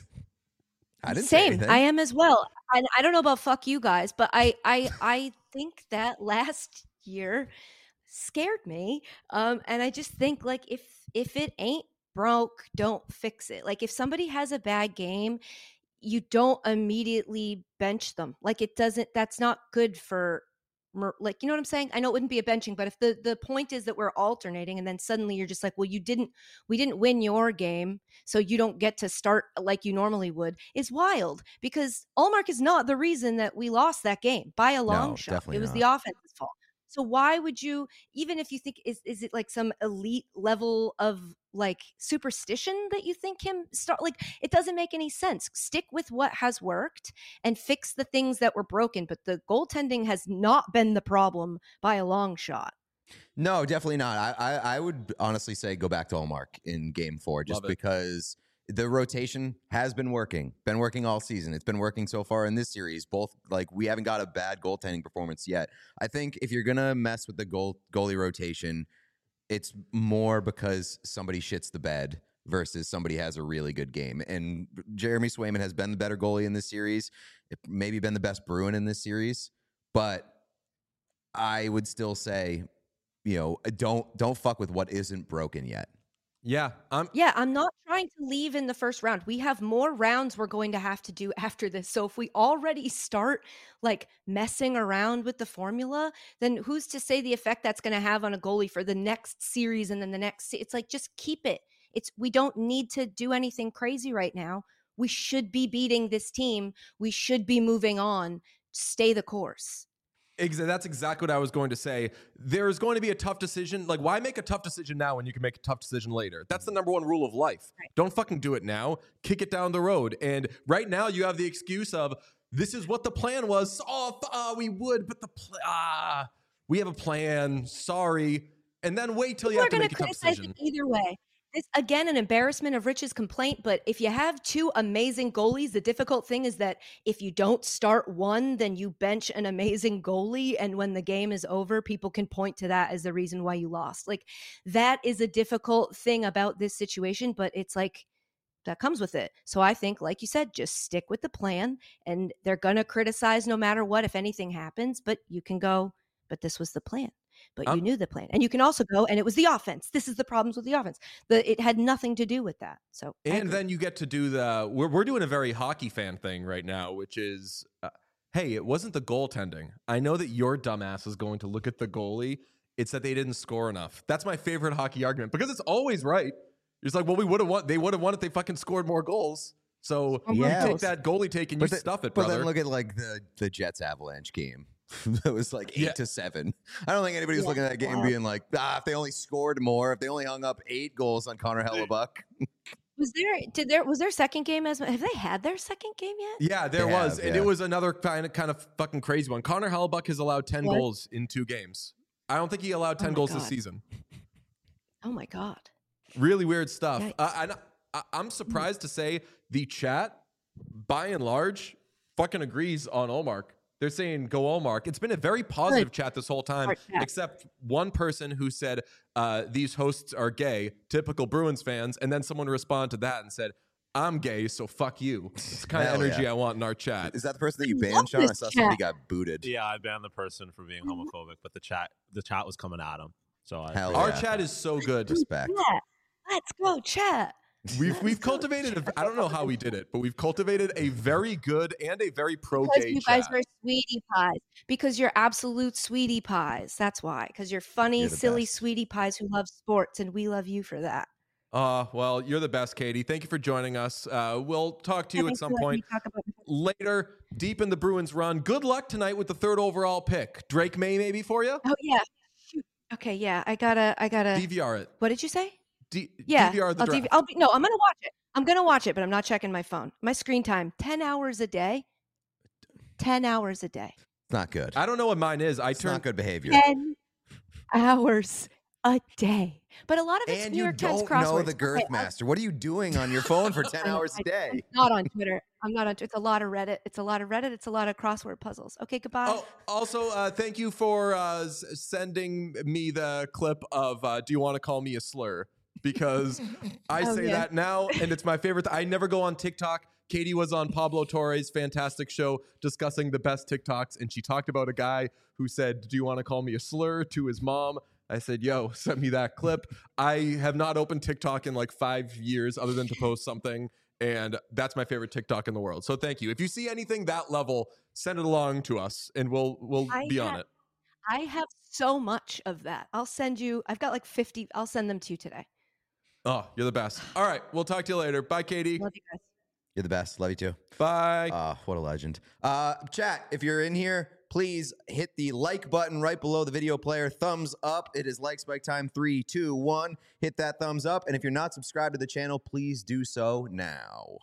I didn't say Same. anything. I am as well. And I don't know about fuck you guys, but I I I think that last year scared me. Um, and I just think like if if it ain't broke, don't fix it. Like if somebody has a bad game, you don't immediately bench them. Like it doesn't. That's not good for. Like, you know what I'm saying? I know it wouldn't be a benching, but if the, the point is that we're alternating and then suddenly you're just like, well, you didn't, we didn't win your game, so you don't get to start like you normally would, is wild because Ullmark is not the reason that we lost that game by a long No, shot. definitely It was not. the offense's fault. So why would you, even if you think, is is it like some elite level of like superstition that you think him start? Like, it doesn't make any sense. Stick with what has worked and fix the things that were broken. But the goaltending has not been the problem by a long shot. No, definitely not. I, I, I would honestly say go back to Ullmark in Game Four, just Love it. because the rotation has been working, been working all season. It's been working so far in this series. Both like we haven't got a bad goaltending performance yet. I think if you're gonna mess with the goal goalie rotation, it's more because somebody shits the bed versus somebody has a really good game. And Jeremy Swayman has been the better goalie in this series. It maybe been the best Bruin in this series, but I would still say, you know, don't don't fuck with what isn't broken yet. Yeah, I'm. Yeah, I'm not trying to leave in the first round. We have more rounds we're going to have to do after this. So if we already start like messing around with the formula, then who's to say the effect that's going to have on a goalie for the next series and then the next se- it's like just keep it. It's we don't need to do anything crazy right now. We should be beating this team. We should be moving on. Stay the course. Exa- That's exactly what I was going to say. There's going to be a tough decision. Like, why make a tough decision now when you can make a tough decision later? That's the number one rule of life. Right. Don't fucking do it now. Kick it down the road. And right now, you have the excuse of this is what the plan was. Oh, th- uh, we would, but the pl- ah, we have a plan. Sorry. And then wait till you People have are to going make to a tough criticize decision. it either way. This again, an embarrassment of Rich's complaint. But if you have two amazing goalies, the difficult thing is that if you don't start one, then you bench an amazing goalie, and when the game is over, people can point to that as the reason why you lost. Like that is a difficult thing about this situation, but it's like that comes with it. So I think, like you said, just stick with the plan, and they're gonna criticize no matter what if anything happens. But you can go, but this was the plan. But you Um, knew the plan. And you can also go, and it was the offense. This is the problems with the offense. The, it had nothing to do with that. So, I And agree. then you get to do the we're we're doing a very hockey fan thing right now, which is uh, hey, it wasn't the goaltending. I know that your dumbass is going to look at the goalie. It's that they didn't score enough. That's my favorite hockey argument because it's always right. It's like, well, we would have won. They would have won if they fucking scored more goals. So Or you Yeah. take that goalie take and you the- stuff it, but brother. then look at like the the Jets Avalanche game. It was like eight Yeah. to seven. I don't think anybody was Yeah. looking at that game Wow. being like, ah, if they only scored more, if they only hung up eight goals on Connor Hellebuck. was there, did there, was their second game as, have they had their second game yet? yeah, there They was, have, and yeah. it was another kind of kind of fucking crazy one. Connor Hellebuck has allowed ten What? goals in two games. I don't think he allowed ten my goals this God. season. Oh my God. Really weird stuff. Yikes. Uh, and I, I'm surprised to say the chat, by and large, fucking agrees on Ullmark. They're saying go Ullmark. It's been a very positive Good. chat this whole time, Smart chat. except one person who said uh, these hosts are gay, typical Bruins fans, and then someone responded to that and said, I'm gay, so fuck you. It's the kind of Hell energy yeah. I want in our chat. Is that the person that you I banned, love Sean? I this saw chat. somebody got booted. Yeah, I banned the person for being homophobic, but the chat the chat was coming at him. So I Hell figured- Our yeah. chat is so good. Respect. Yeah. Let's go, chat. We've we've cultivated. A, I don't know how we did it, but we've cultivated a very good and a very pro Because gay you chat. guys are sweetie pies. Because you're absolute sweetie pies. That's why. Because you're funny, You're the silly best. sweetie pies who love sports, and we love you for that. Uh, well, you're the best, Katie. Thank you for joining us. Uh, we'll talk to you at Thanks some for letting point me talk about- later, deep in the Bruins run. Good luck tonight with the third overall pick. Drake May, maybe for you. Oh yeah. Shoot. Okay, yeah. I gotta. I gotta. D V R it. What did you say? D- Yeah. D V R the I'll, draft. D V I'll be. No, I'm gonna watch it. I'm gonna watch it, but I'm not checking my phone. My screen time: ten hours a day. Ten hours a day. It's not good. I don't know what mine is. I It's turn not good behavior. Ten hours a day. But a lot of it's And New you York Times don't crosswords. know the Okay, Girth I'll- Master. What are you doing on your phone for ten I know, hours a I- day? I'm not on Twitter. I'm not on Twitter. It's a lot of Reddit. It's a lot of Reddit. It's a lot of crossword puzzles. Okay, goodbye. Oh, also, uh, thank you for uh, s- sending me the clip of uh, "Do you want to call me a slur?" Because I Oh, say yeah. that now, and it's my favorite. I never go on TikTok. Katie was on Pablo Torre's fantastic show discussing the best TikToks, and she talked about a guy who said, "Do you want to call me a slur?" to his mom. I said, "Yo, send me that clip." I have not opened TikTok in like five years, other than to post something. And that's my favorite TikTok in the world. So thank you. If you see anything that level, send it along to us and we'll we'll I be on ha- it. I have so much of that. I'll send you. I've got like fifty. I'll send them to you today. Oh, you're the best. All right. We'll talk to you later. Bye, Katie. Love you guys. You're the best. Love you too. Bye. Ah, what a legend. Uh, chat, if you're in here, please hit the like button right below the video player. Thumbs up. It is like spike time. Three, two, one. Hit that thumbs up. And if you're not subscribed to the channel, please do so now.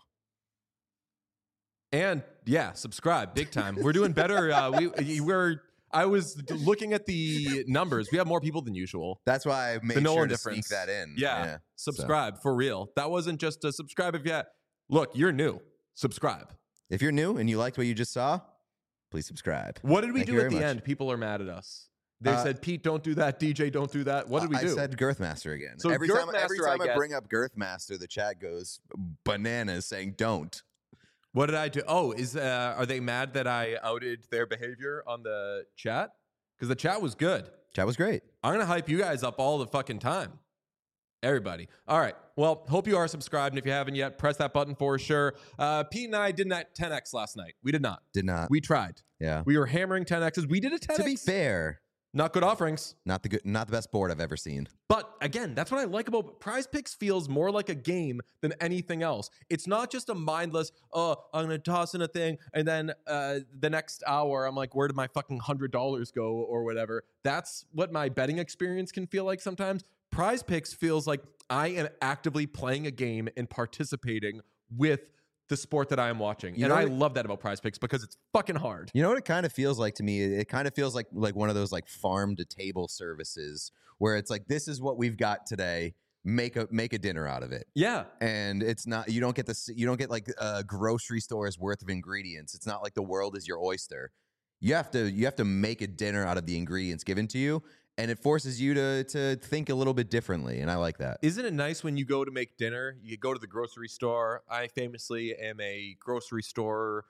And yeah, subscribe big time. We're doing better. Uh, we we're. I was looking at the numbers. We have more people than usual. That's why I made The Nolan sure to difference. sneak that in. Yeah. so. Subscribe for real. That wasn't just a subscribe if you. Look, you're new. Subscribe. If you're new and you liked what you just saw, please subscribe. What did we Thank you do at very the much. end? People are mad at us. They Uh, said, "Pete, don't do that. D J, don't do that." What did we I do? said Girthmaster again. So every time, every Girthmaster I time I, get. bring up Girthmaster, the chat goes bananas saying don't. What did I do? Oh, is uh, are they mad that I outed their behavior on the chat? Because the chat was good. Chat was great. I'm gonna hype you guys up all the fucking time. Everybody. All right. Well, hope you are subscribed. And if you haven't yet, press that button for sure. Uh, Pete and I did not ten X last night. We did not. Did not. We tried. yeah. We were hammering ten X's. We did a ten X. To be fair, Not good offerings. not the good, not the best board I've ever seen. But again, that's what I like about Prize Picks. Feels more like a game than anything else. It's not just a mindless, oh, I'm going to toss in a thing. And then uh, the next hour, I'm like, where did my fucking one hundred dollars go or whatever? That's what my betting experience can feel like sometimes. Prize Picks feels like I am actively playing a game and participating with the sport that I am watching. You and know I what- love that about Prize Picks because it's fucking hard. You know what it kind of feels like to me? It, it kind of feels like like one of those like farm to table services where it's like, this is what we've got today. Make a make a dinner out of it. Yeah. And it's not, you don't get this, you don't get like a grocery store's worth of ingredients. It's not like the world is your oyster. You have to you have to make a dinner out of the ingredients given to you, and it forces you to to think a little bit differently, and I like that. Isn't it nice when you go to make dinner? You go to the grocery store. I famously am a grocery store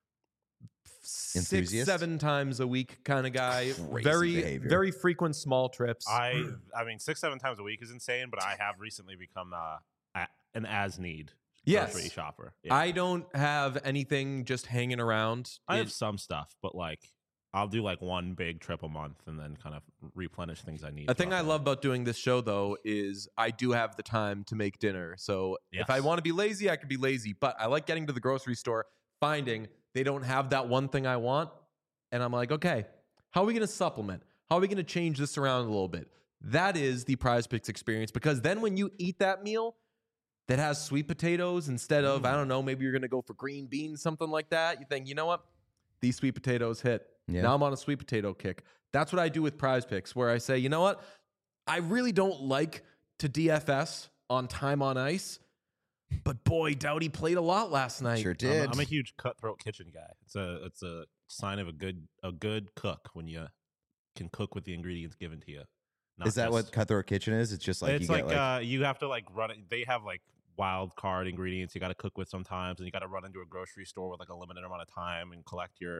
six, Enthusiast? seven times a week kind of guy. Crazy very, behavior. very frequent small trips. I I mean six seven times a week is insane, but I have recently become uh, a, an as need Yes. grocery shopper. Yeah. I don't have anything just hanging around. I have It- some stuff, but like I'll do like one big trip a month and then kind of replenish things I need. A thing I throughout the love month. about doing this show, though, is I do have the time to make dinner. So if I Yes. want to be lazy, I can be lazy. But I like getting to the grocery store, finding they don't have that one thing I want. And I'm like, okay, how are we going to supplement? How are we going to change this around a little bit? That is the Prize Picks experience. Because then when you eat that meal that has sweet potatoes instead of, I don't know, maybe you're going to go for green beans, something like that. You think, you know what? These sweet potatoes hit. Yeah. Now I'm on a sweet potato kick. That's what I do with Prize Picks, where I say, you know what? I really don't like to D F S on time on ice, but boy, Doughty played a lot last night. Sure I'm, did. a- I'm a huge cutthroat kitchen guy. It's a it's a sign of a good a good cook when you can cook with the ingredients given to you. Not Is that just- what Cutthroat Kitchen is? It's just like it's you like, get like uh, you have to like run it. They have like wild card ingredients you got to cook with sometimes, and you got to run into a grocery store with like a limited amount of time and collect your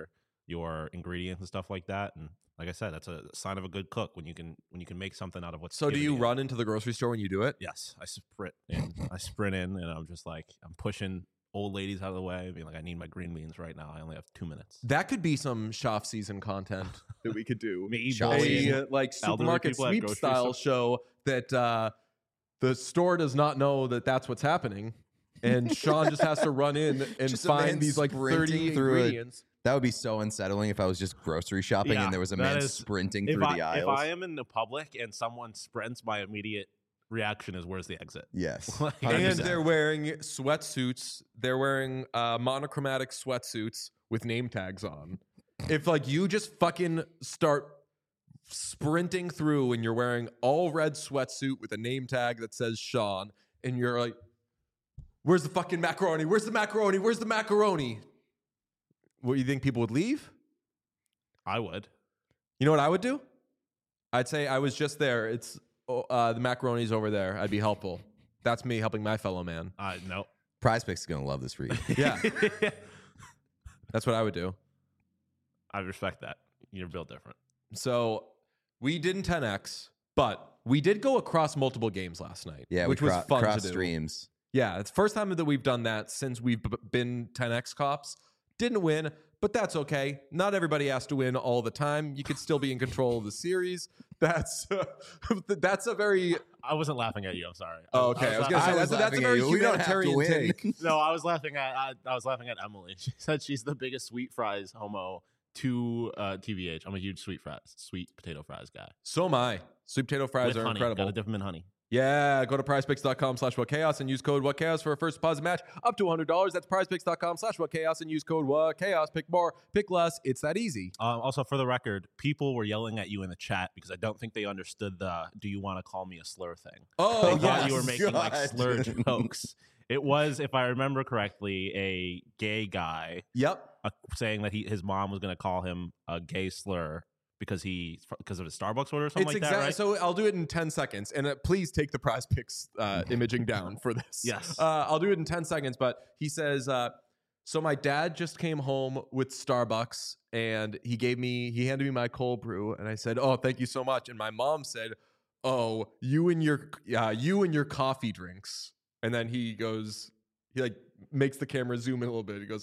your ingredients and stuff like that. And like I said, that's a sign of a good cook when you can when you can make something out of what's. So do given you to run into the grocery store when you do it? Yes, I sprint in. I sprint in, and I'm just like I'm pushing old ladies out of the way, being like, I need my green beans right now. I only have two minutes. That could be some Schaff season content that we could do. Me Schaff bullying season. A, uh, like elderly supermarket people at sweep grocery style store. show that uh, the store does not know that that's what's happening, and Sean just has to run in and Just a man find these like sprinting thirty through it. ingredients. That would be so unsettling if I was just grocery shopping Yeah, and there was a that man is- sprinting If through I, the aisles. if I am in the public and someone sprints, my immediate reaction is, "Where's the exit?" yes. Like, one hundred And percent. they're wearing sweatsuits. They're wearing uh, monochromatic sweatsuits with name tags on. If like you just fucking start sprinting through and you're wearing all red sweatsuit with a name tag that says Sean, and you're like, "Where's the fucking macaroni? Where's the macaroni? Where's the macaroni?" What, you think people would leave? I would. You know what I would do? I'd say I was just there. It's oh, uh, the macaroni's over there. I'd be helpful. That's me helping my fellow man. Uh, no. Prize Picks is going to love this read. Yeah, that's what I would do. I respect that. You're built different. So we didn't ten X, but we did go across multiple games last night. Yeah, which we was cro- fun cross to do. streams. Yeah, it's the first time that we've done that since we've b- been ten X cops. Didn't win, but that's okay. Not everybody has to win all the time. You could still be in control of the series. That's that's a very I wasn't laughing at you. I'm sorry. oh, okay. I was gonna laugh- say I that's, was that's a laughing at very you. We don't have to humanitarian win. take. No, I was laughing at I, I was laughing at Emily. She said she's the biggest sweet fries homo to uh, T B H. I'm a huge sweet fries, sweet potato fries guy. So am I. Sweet potato fries With are honey. incredible. Gotta dip them in honey. Yeah, go to prizepicks.com slash what chaos and use code what chaos for a first deposit match up to one hundred dollars. That's prizepicks.com slash what chaos and use code what chaos. Pick more, pick less. It's that easy. Um, also, for the record, people were yelling at you in the chat because I don't think they understood the "Do you want to call me a slur" thing. Oh, They thought yes. you were making like God. slur jokes. It was, if I remember correctly, a gay guy Yep. uh, saying that he his mom was going to call him a gay slur because he because of his Starbucks order or something It's like exactly that, right? so. I'll do it in ten seconds, and uh, please take the Prize Picks uh, imaging down for this. Yes. uh, I'll do it in ten seconds. But he says, uh, so my dad just came home with Starbucks, and he gave me, he handed me my cold brew, and I said, "Oh, thank you so much." And my mom said, "Oh, you and your, uh, you and your coffee drinks." And then he goes, he like makes the camera zoom in a little bit. He goes,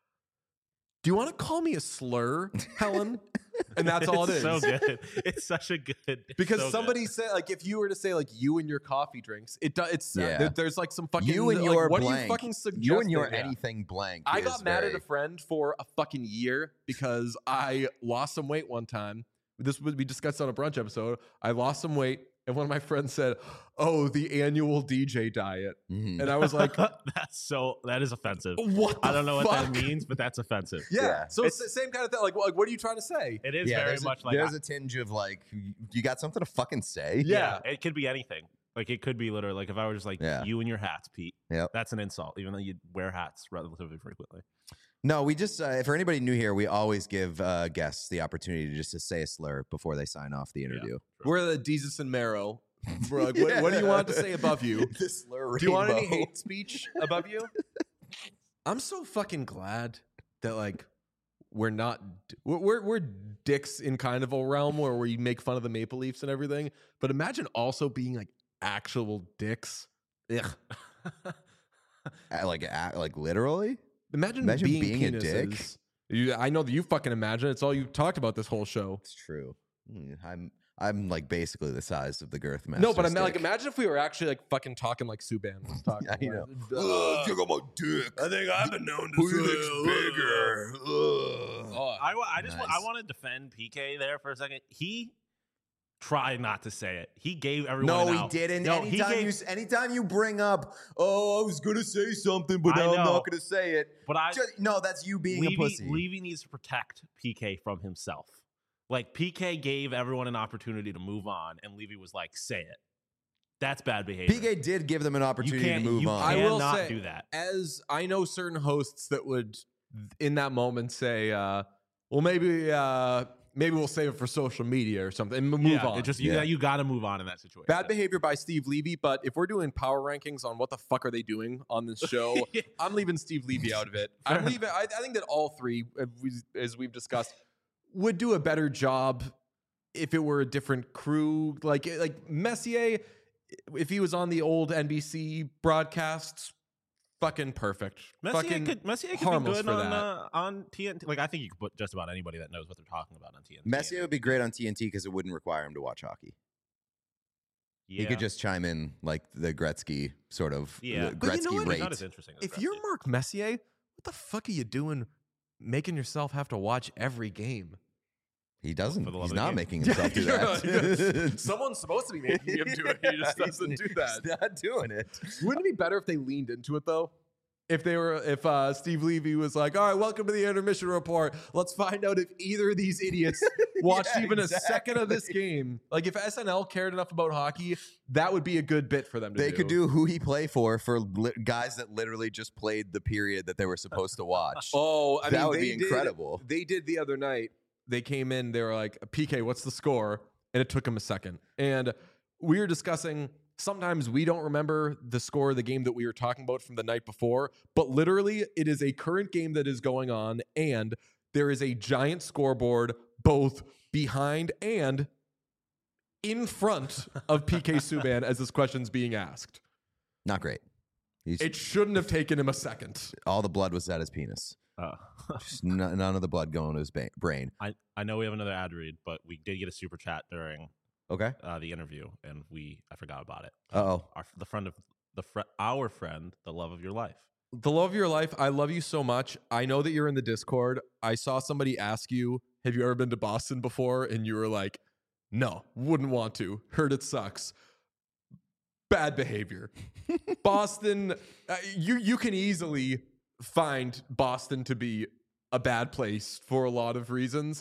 "Do you want to call me a slur, Helen?" And that's all it It's is. so good. It's such a good it's Because so good. somebody said, like, if you were to say, like, you and your coffee drinks, it does. It's uh, Yeah. there- there's like some fucking You and like, your what are you blank. fucking suggesting? You and your Yeah. anything blank. I is got mad very- at a friend for a fucking year because I lost some weight one time. This would be discussed on a brunch episode. I lost some weight, and one of my friends said, "Oh, the annual D J diet," Mhm. and I was like, that's so that is offensive. "What? I the don't know what that fuck?" means, but that's offensive. Yeah. Yeah. So it's It's- the same kind of thing. Like, like, what are you trying to say? It is yeah, very there's a, much like there's I- a tinge of like, you got something to fucking say? Yeah. it could be anything. Like it could be literally like if I were just like Yeah. you and your hats, Pete. Yep. That's an insult, even though you wear hats relatively frequently. No, we just uh, for anybody new here, we always give uh, guests the opportunity to just to say a slur before they sign off the interview. We're the Jesus and Marrow. We're like, what, what do you want to say above you? The slur Do you want any rainbow. hate speech above you? I'm so fucking glad that like we're not we're we're, we're dicks in kind of a realm where we make fun of the Maple Leafs and everything. But imagine also being like actual dicks. Ugh. Uh, like uh, like literally? Imagine, Imagine being, being a penises. dick. You, I know that you fucking imagine. It's all you talked about this whole show. It's true. Mm, I'm I'm like basically the size of the girth master. No, but I'm like, stick. imagine if we were actually like fucking talking like Subban was talking. I know. Ugh. check out my dick. I think I've been known to Who say, looks ugh. bigger? Ugh. Oh, I, wa- I just wa- I Nice. want to defend P K there for a second. He tried not to say it. He gave everyone No, an he out. didn't. No, he anytime gave- you s- anytime you bring up, oh, I was gonna say something, but I now I'm know. not gonna say it. But I Just- no, that's you being Levy, a pussy. Levy needs to protect P K from himself. Like P K gave everyone an opportunity to move on, and Levy was like, "Say it." That's bad behavior. P K did give them an you opportunity to can't, move you on. I will cannot say- do that. as I know certain hosts that would in that moment say, uh, well, maybe uh, maybe we'll save it for social media or something and move yeah, on. It just you, Yeah. you got to move on in that situation. Bad behavior by Steve Levy, but if we're doing power rankings on what the fuck are they doing on this show, I'm leaving Steve Levy out of it. I'm Fair leaving. I, I think that all three, uh, we- as we've discussed, would do a better job if it were a different crew. Like like Messier, if he was on the old N B C broadcasts, fucking perfect. Messier fucking could Messier could be harmless good for on that. uh, on T N T. Like I think you could put just about anybody that knows what they're talking about on T N T. Messier would be great on T N T because it wouldn't require him to watch hockey. Yeah. He could just chime in like the Gretzky sort of Yeah. the But you know Gretzky what? He's rate. not as interesting. As If you're Gretzky. Mark Messier, what the fuck are you doing making yourself have to watch every game? He doesn't. For the love He's of the not game. making himself do You're not- that. Someone's supposed to be making him do it. He just Yeah, doesn't he's- do that. He's not doing it. Wouldn't it be better if they leaned into it though? If they were, if uh, Steve Levy was like, "All right, welcome to the intermission report. Let's find out if either of these idiots watched Yeah, even a second of this exactly. game." Like, if S N L cared enough about hockey, that would be a good bit for them to They do. could do who he play for for li- guys that literally just played the period that they were supposed to watch. Oh, I that mean, would they be did- incredible. They did the other night. They came in. They were like, "P K, what's the score?" And it took them a second. And we were discussing. Sometimes we don't remember the score of the game that we were talking about from the night before, but literally it is a current game that is going on, and there is a giant scoreboard both behind and in front of P K Subban as this question's being asked. Not great. He's, It shouldn't have taken him a second. all the blood was at his penis. Uh, Just n- none of the blood going to his ba- brain. I I know we have another ad read, but we did get a super chat during Okay. uh, the interview, and we I forgot about it. Uh-oh. Our the friend of the fr- our friend, the love of your life. The love of your life, I love you so much. I know that you're in the Discord. I saw somebody ask you, have you ever been to Boston before? And you were like, no, wouldn't want to. Heard it sucks. Bad behavior. Boston, uh, you you can easily find Boston to be a bad place for a lot of reasons.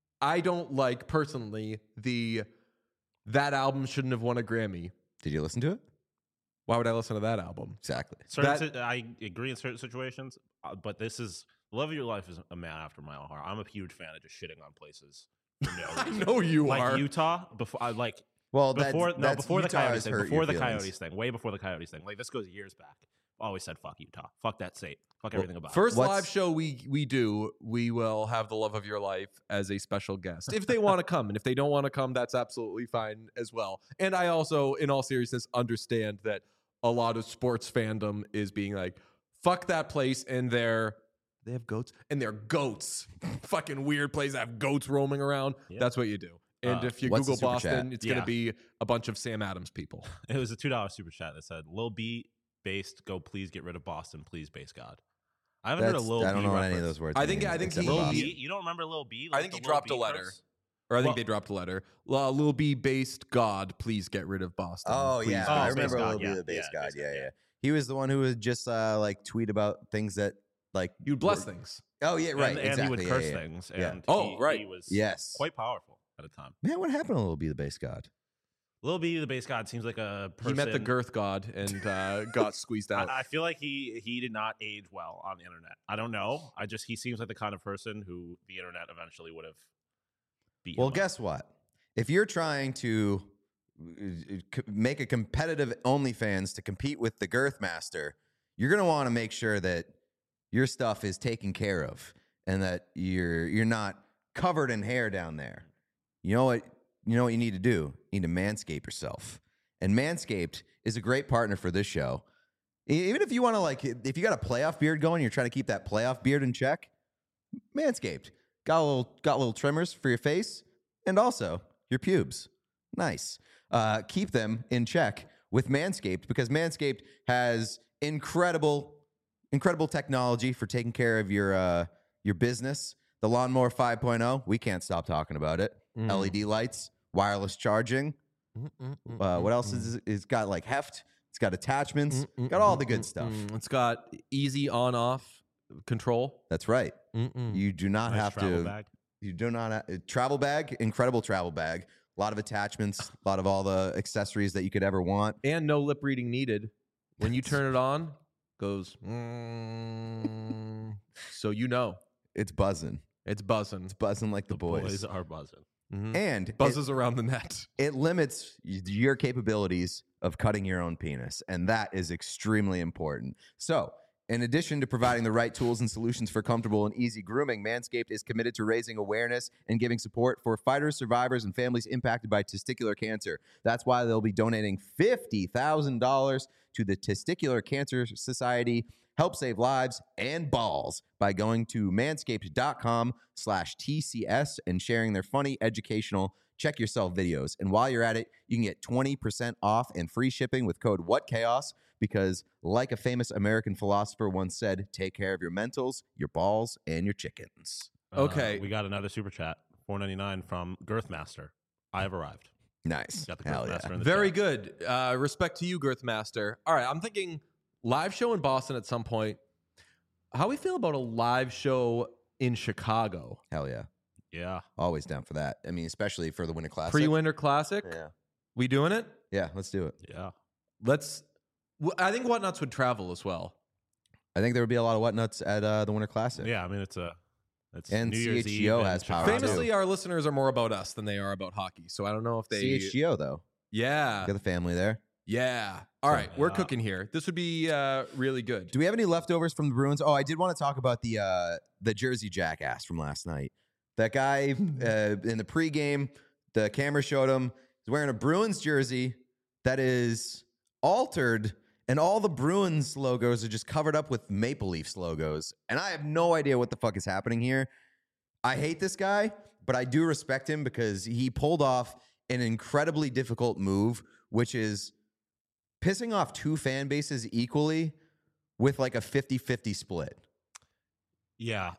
I don't like, personally, the that album shouldn't have won a Grammy. Did you listen to it? Why would I listen to that album? Exactly. Certain si- I agree in certain situations, uh, but this is love of your life is a man after my own heart. I'm a huge fan of just shitting on places. For no I reason. know you like are. Utah before I like Well, before that's, no that's before the Utah Coyotes has thing hurt before your the feelings. Coyotes thing way before the Coyotes thing. Like this goes years back. Always said fuck Utah, fuck that state, fuck everything about First What's- live show we we do, we will have the love of your life as a special guest if they want to come, and if they don't want to come, that's absolutely fine as well. And I also, in all seriousness, understand that a lot of sports fandom is being like, "Fuck that place," and they're they have goats, and they're goats, fucking weird place that have goats roaming around. Yeah. That's what you do. And Uh, if you what's the Google super chat? Boston, it's Yeah. gonna be a bunch of Sam Adams people. it. It was a two dollar super chat that said Lil B based go please get rid of Boston, please base God. I haven't heard a That's- Lil I don't B know what reference. any of those words I think- mean, I think except he- for Lil Boston. B, you don't remember Lil B? I Like think the he Lil dropped B a letter. verse? Or I think Well- they dropped a letter. Uh, Lil B based God, please get rid of Boston. Oh Please yeah, Oh, I Space remember God, a little yeah, bit of the base yeah, god. Space Yeah, God, yeah, yeah. He was the one who would just uh, like tweet about things that like You'd bless were- things. Oh yeah, right. And, and exactly. he would yeah, curse yeah, yeah. things. Yeah. And Oh, he, right. he was Yes. quite powerful at a time. Man, what happened to Little B the base god? Lil B, the base god, seems like a person. He met the girth god and uh, got squeezed out. I, I feel like he he did not age well on the internet. I don't know. I just he seems like the kind of person who the internet eventually would have beat. Well, him up. guess what? If you're trying to uh, c- make a competitive OnlyFans to compete with the Girth Master, you're gonna want to make sure that your stuff is taken care of and that you're you're not covered in hair down there. You know what? You know what you need to do? You need to manscape yourself. And Manscaped is a great partner for this show. E- Even if you want to like, if you got a playoff beard going, you're trying to keep that playoff beard in check. Manscaped got a little got little trimmers for your face and also your pubes. Nice. Uh, keep them in check with Manscaped because Manscaped has incredible, incredible technology for taking care of your uh, your business. The Lawnmower five point oh, we can't stop talking about it. Mm. L E D lights, wireless charging. Mm, mm, mm, Uh, what mm, else mm. is it's got like heft? It's got attachments. Mm, mm, Got all mm, the good mm, stuff. mm. It's got easy on off control. That's right. Mm-mm. You do not Nice have travel to. bag. You do not ha- travel bag, incredible travel bag. A lot of attachments, a lot of all the accessories that you could ever want. And no lip reading needed. When you turn it on, goes. Mm, so you know. It's buzzing. It's buzzing. It's buzzing like the, The boys. boys are buzzing. Mhm. And Buzzes around the net. it, it limits y- your capabilities of cutting your own penis. And that is extremely important. So, in addition to providing the right tools and solutions for comfortable and easy grooming, Manscaped is committed to raising awareness and giving support for fighters, survivors, and families impacted by testicular cancer. That's why they'll be donating fifty thousand dollars to the Testicular Cancer Society. Help save lives and balls by going to manscaped.com slash TCS and sharing their funny, educational, check yourself videos. And while you're at it, you can get twenty percent off and free shipping with code WhatChaos because, like a famous American philosopher once said, take care of your mentals, your balls, and your chickens. Uh, Okay. we got another super chat, four ninety-nine from Girthmaster. I have arrived. Nice. Got the Hell Girthmaster yeah. in the Very chat. good. Uh, respect to you, Girthmaster. All right, I'm thinking live show in Boston at some point. How we feel about a live show in Chicago? Hell yeah. Yeah. Always down for that. I mean, especially for the Winter Classic. Pre-Winter Classic? Yeah. We doing it? Yeah, let's do it. Yeah. Let's. w- I think Whatnuts would travel as well. I think there would be a lot of Whatnuts at uh, the Winter Classic. Yeah. I mean, it's a. It's And New Year's C H G O Eve in has power, Chicago. Famously, our listeners are more about us than they are about hockey. So I don't know if they. C H G O, though. Yeah. Got the family there. Yeah. All right, we're Yeah. cooking here. This would be uh, really good. Do we have any leftovers from the Bruins? Oh, I did want to talk about the uh, the Jersey jackass from last night. That guy uh, in the pregame, the camera showed him. He's wearing a Bruins jersey that is altered, and all the Bruins logos are just covered up with Maple Leafs logos. And I have no idea what the fuck is happening here. I hate this guy, but I do respect him because he pulled off an incredibly difficult move, which is pissing off two fan bases equally with like a fifty-fifty split. Yeah,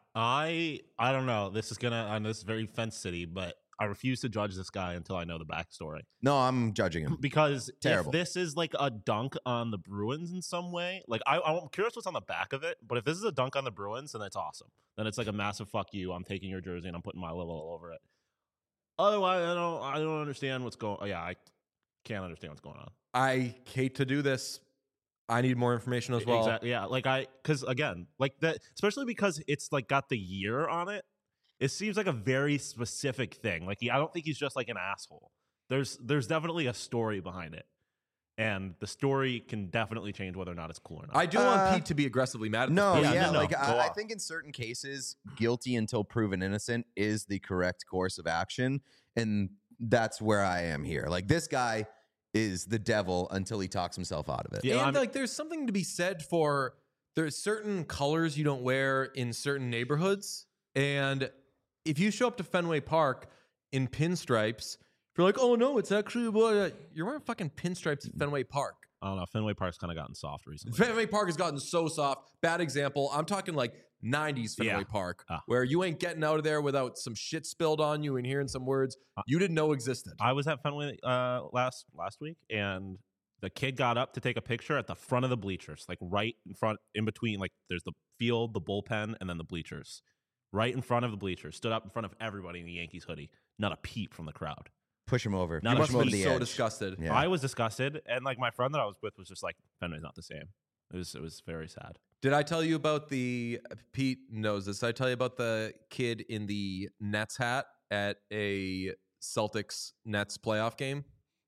I I don't know. This is gonna. I know this is very fence city, but I refuse to judge this guy until I know the backstory. No, I'm judging him. Because Terrible. if this is like a dunk on the Bruins in some way, like I, I'm curious what's on the back of it. But if this is a dunk on the Bruins, then that's awesome. Then it's like a massive fuck you. I'm taking your jersey and I'm putting my logo all over it. Otherwise, I don't. I don't understand what's going. Oh, yeah, I can't understand what's going on. I hate to do this. I need more information as well. Exactly. Yeah. Like I, because again, like that, especially because it's like got the year on it. It seems like a very specific thing. Like he, I don't think he's just like an asshole. There's there's definitely a story behind it, and the story can definitely change whether or not it's cool or not. I do Uh, want Pete to be aggressively mad at No, this yeah, person. no, no, like go I, I off. think in certain cases, guilty until proven innocent is the correct course of action, and that's where I am here. Like this guy is the devil until he talks himself out of it. Yeah, and I'm- like there's something to be said for there's certain colors you don't wear in certain neighborhoods. And if you show up to Fenway Park in pinstripes, if you're like, oh no, it's actually what you're wearing fucking pinstripes at Fenway Park. I don't know. Fenway Park's kind of gotten soft recently. Fenway Park has gotten so soft. Bad example. I'm talking like nineties Fenway Yeah. Park, Ah. where you ain't getting out of there without some shit spilled on you and hearing some words Uh, you didn't know existed. I was at Fenway uh, last last week, and the kid got up to take a picture at the front of the bleachers, like right in front, in between. Like there's the field, the bullpen, and then the bleachers. Right in front of the bleachers, stood up in front of everybody in the Yankees hoodie. Not a peep from the crowd. Push him over. Not you a Push must him have over been the so edge. disgusted. Yeah. I was disgusted, and like my friend that I was with was just like, Fenway's not the same. It was it was very sad. Did I tell you about the Pete knows this? Did I tell you about the kid in the Nets hat at a Celtics Nets playoff game?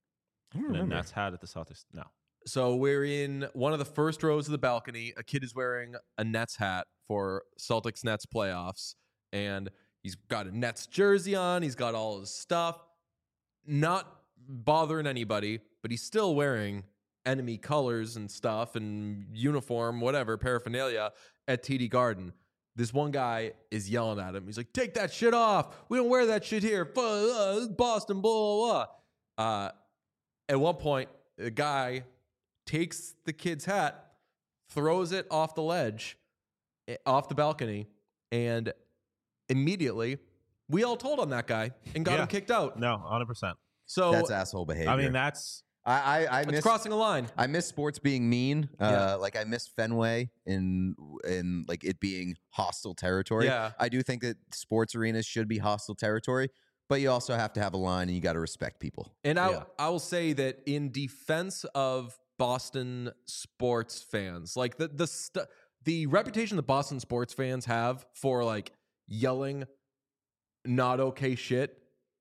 I don't And then remember. Nats had at the Celtics. No, So we're in one of the first rows of the balcony. A kid is wearing a Nets hat for Celtics Nets playoffs, and he's got a Nets jersey on. He's got all his stuff, not bothering anybody, but he's still wearing enemy colors and stuff and uniform, whatever, paraphernalia at T D Garden. This one guy is yelling at him. He's like, take that shit off. We don't wear that shit here. Fu- uh, this is Boston, blah, blah, blah. Uh, at one point, the guy takes the kid's hat, throws it off the ledge, eh, off the balcony, and immediately we all told on that guy and got Yeah. him kicked out. no, one hundred percent. So That's asshole behavior. I mean, that's I I, I it's miss crossing a line. I miss sports being mean. Uh, Yeah. Like I miss Fenway in in like it being hostile territory. Yeah. I do think that sports arenas should be hostile territory, but you also have to have a line and you got to respect people. And I, Yeah. I will say that in defense of Boston sports fans, like the the st- the reputation that Boston sports fans have for like yelling not okay shit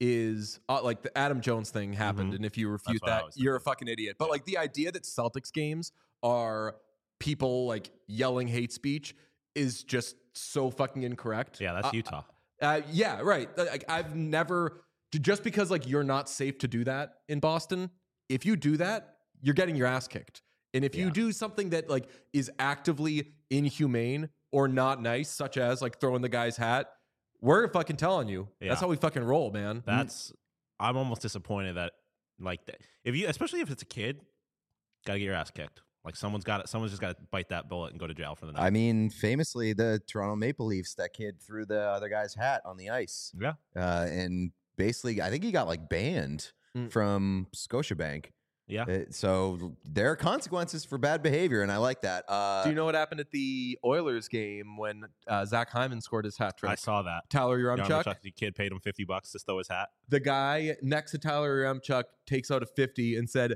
is uh, like the Adam Jones thing happened, Mhm. and if you refute what I that, was you're a thinking. fucking idiot. But Yeah. like the idea that Celtics games are people like yelling hate speech is just so fucking incorrect. Yeah, that's Uh, Utah. Uh, yeah, right. Like I've never just because like you're not safe to do that in Boston. If you do that, you're getting your ass kicked. And if you Yeah. do something that like is actively inhumane or not nice, such as like throwing the guy's hat, we're fucking telling you. Yeah. That's how we fucking roll, man. That's I'm almost disappointed that like that if you especially if it's a kid, gotta get your ass kicked. Like someone's got it. Someone's just got to bite that bullet and go to jail for the night. I mean, famously, the Toronto Maple Leafs, that kid threw the other guy's hat on the ice. Yeah. Uh, and basically, I think he got like banned Mm. from Scotiabank. Yeah. Uh, so there are consequences for bad behavior, and I like that. Uh, Do you know what happened at the Oilers game when uh, Zach Hyman scored his hat trick? I saw that. Tyler Yaremchuk. Yaremchuk, the kid paid him fifty bucks to throw his hat. The guy next to Tyler Yaremchuk takes out a fifty and said,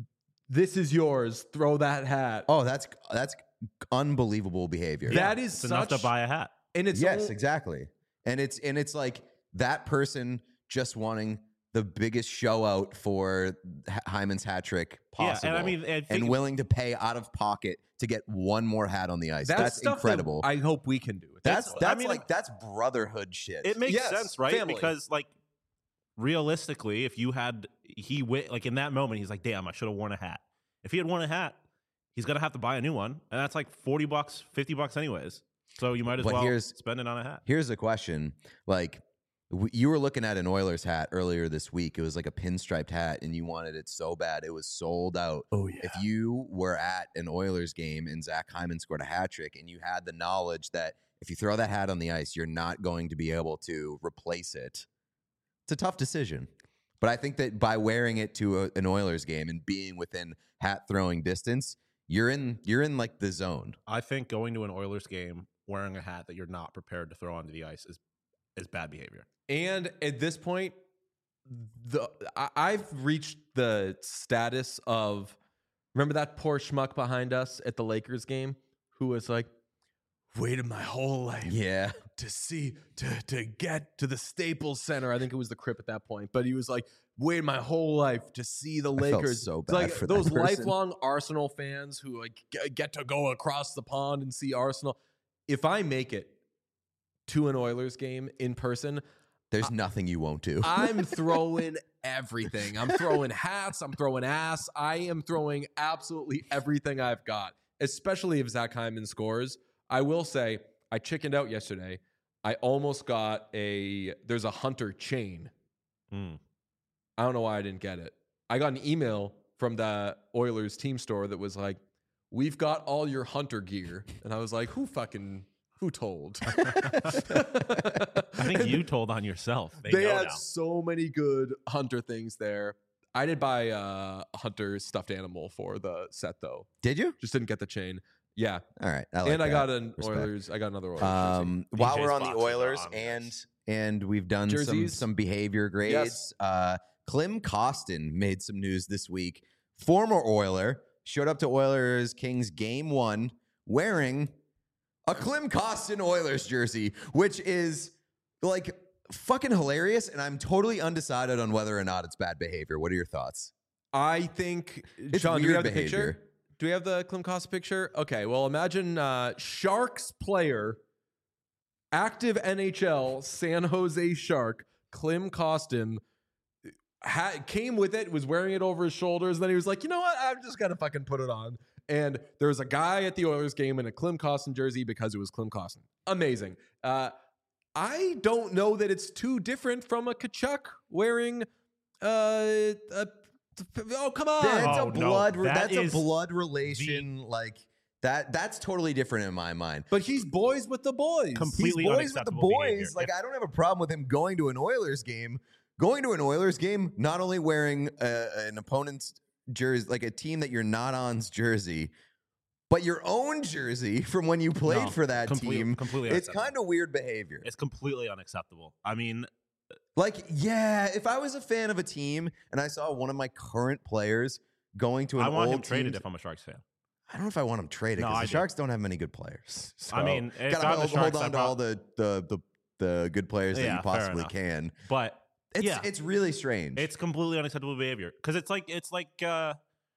"This is yours. Throw that hat." oh, that's that's unbelievable behavior. That is It's enough to such- buy a hat. And it's yes, all- exactly. And it's and it's like that person just wanting the biggest show out for H- Hyman's hat trick possible. Yeah, and I mean, and and think- willing to pay out of pocket to get one more hat on the ice. That's, That's, stuff that incredible. I hope we can do. that's I that's mean, like that's brotherhood shit. it makes Yes, sense, right? family. Because like realistically, if you had he wi- like in that moment, he's like, "Damn, I should have worn a hat." If he had worn a hat, he's gonna have to buy a new one, and that's like forty bucks, fifty bucks, anyways. So you might as But well here's- spend it on a hat. Here's the question: like, w- you were looking at an Oilers hat earlier this week. It was like a pinstriped hat, and you wanted it so bad it was sold out. Oh yeah. If you were at an Oilers game and Zach Hyman scored a hat trick, and you had the knowledge that if you throw that hat on the ice, you're not going to be able to replace it, it's a tough decision. But I think that by wearing it to a, an Oilers game and being within hat throwing distance, you're in you're in like the zone. I think going to an Oilers game wearing a hat that you're not prepared to throw onto the ice is is bad behavior. And at this point, the I, I've reached the status of remember that poor schmuck behind us at the Lakers game who was like, waited my whole life Yeah. to see to to get to the Staples Center. I think it was the Crip at that point, but he was like, waited my whole life to see the I felt Lakers. so It's bad like for that those person. lifelong Arsenal fans who like g- get to go across the pond and see Arsenal. If I make it to an Oilers game in person, There's nothing you won't do. I'm throwing everything. I'm throwing hats. I'm throwing ass. I am throwing absolutely everything I've got, especially if Zach Hyman scores. I will say, I chickened out yesterday. I almost got a, there's a Hunter chain. Mm. I don't know why I didn't get it. I got an email from the Oilers team store that was like, we've got all your Hunter gear. And I was like, who fucking, who told? I think you told on yourself. They, They know had now. so many good Hunter things there. I did buy uh, a Hunter stuffed animal for the set though. Did you? Just didn't get the chain. Yeah, All right. I like and I that. got an Respect. Oilers. I got another Oilers. Um, D while J's we're on the boxes are Oilers on the and ice. and we've done some Jerseys? some behavior grades. Yes. Uh, Klim Kostin made some news this week. Former Oiler showed up to Oilers Kings game one wearing a Klim Kostin Oilers jersey, which is like fucking hilarious. And I'm totally undecided on whether or not it's bad behavior. What are your thoughts? I think. It's Sean, do we weird have the behavior. picture? Do we have the Klim Kostin picture? Okay. Well, imagine uh, Sharks player, active N H L San Jose Shark, Klim Kostin. Ha- came with it, was wearing it over his shoulders, and then he was like, you know what? I'm just gonna fucking put it on. And there was a guy at the Oilers game in a Klim Kostin jersey because it was Klim Kostin. Amazing. Uh, I don't know that it's too different from a Kachuk wearing. Uh, a, oh come on! That's Oh, a no. blood. That that's a is blood relation. Like that. That's totally different in my mind. But he's boys with the boys. Completely He's boys with the unacceptable boys. behavior. Like If- I don't have a problem with him going to an Oilers game. Going to an Oilers game, not only wearing uh, an opponent's jersey, like a team that you're not on's jersey, but your own jersey from when you played No, for that complete- team. completely It's unacceptable. kind of weird behavior. It's completely unacceptable. I mean, Like, yeah, if I was a fan of a team and I saw one of my current players going to an I want old him traded team's- if I'm a Sharks fan. I don't know if I want him traded No, because I the do. Sharks don't have many good players. I So, mean, if gotta I'm the hold, Sharks, hold I on to all prob- the the the the good players that Yeah, you fair possibly enough. can. But It's yeah, it's really strange. it's completely unacceptable behavior because it's like it's like uh,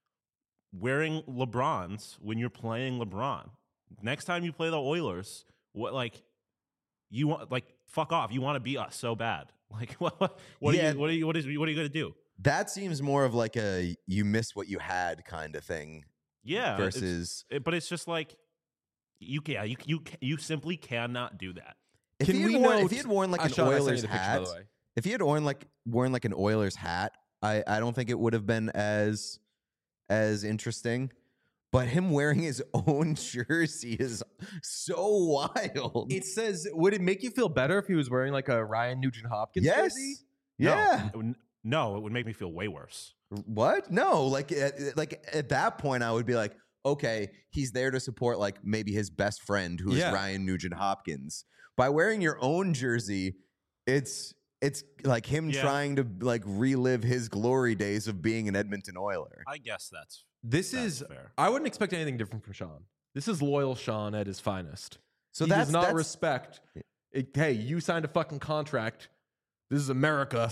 wearing LeBrons when you're playing LeBron. Next time you play the Oilers, what like you want like fuck off. You want to beat us so bad. Like what? What, what Yeah. are you? What are you? What is? What are you going to do? that seems more of like a you miss what you had kind of thing Yeah. it's- versus it- but it's just like you can. You you you simply cannot do that. if Can he, had we worn, note- if he had worn like Uh, an Sean, I sent you Oilers the picture, by hat. the way. If he had worn like worn like an Oilers hat, I, I don't think it would have been as as interesting. But him wearing his own jersey is so wild. It says, would it make you feel better if he was wearing like a Ryan Nugent Hopkins yes. jersey? No, Yeah. it would- no, it would make me feel way worse. What? No. Like at, like at that point, I would be like, okay, he's there to support like maybe his best friend, who is Yeah. Ryan Nugent Hopkins. By wearing your own jersey, it's it's like him Yeah. trying to like relive his glory days of being an Edmonton Oiler. I guess that's This that's is, fair. I wouldn't expect anything different from Sean. This is loyal Sean at his finest. So he that's does not that's, respect, it, hey, you signed a fucking contract. This is America.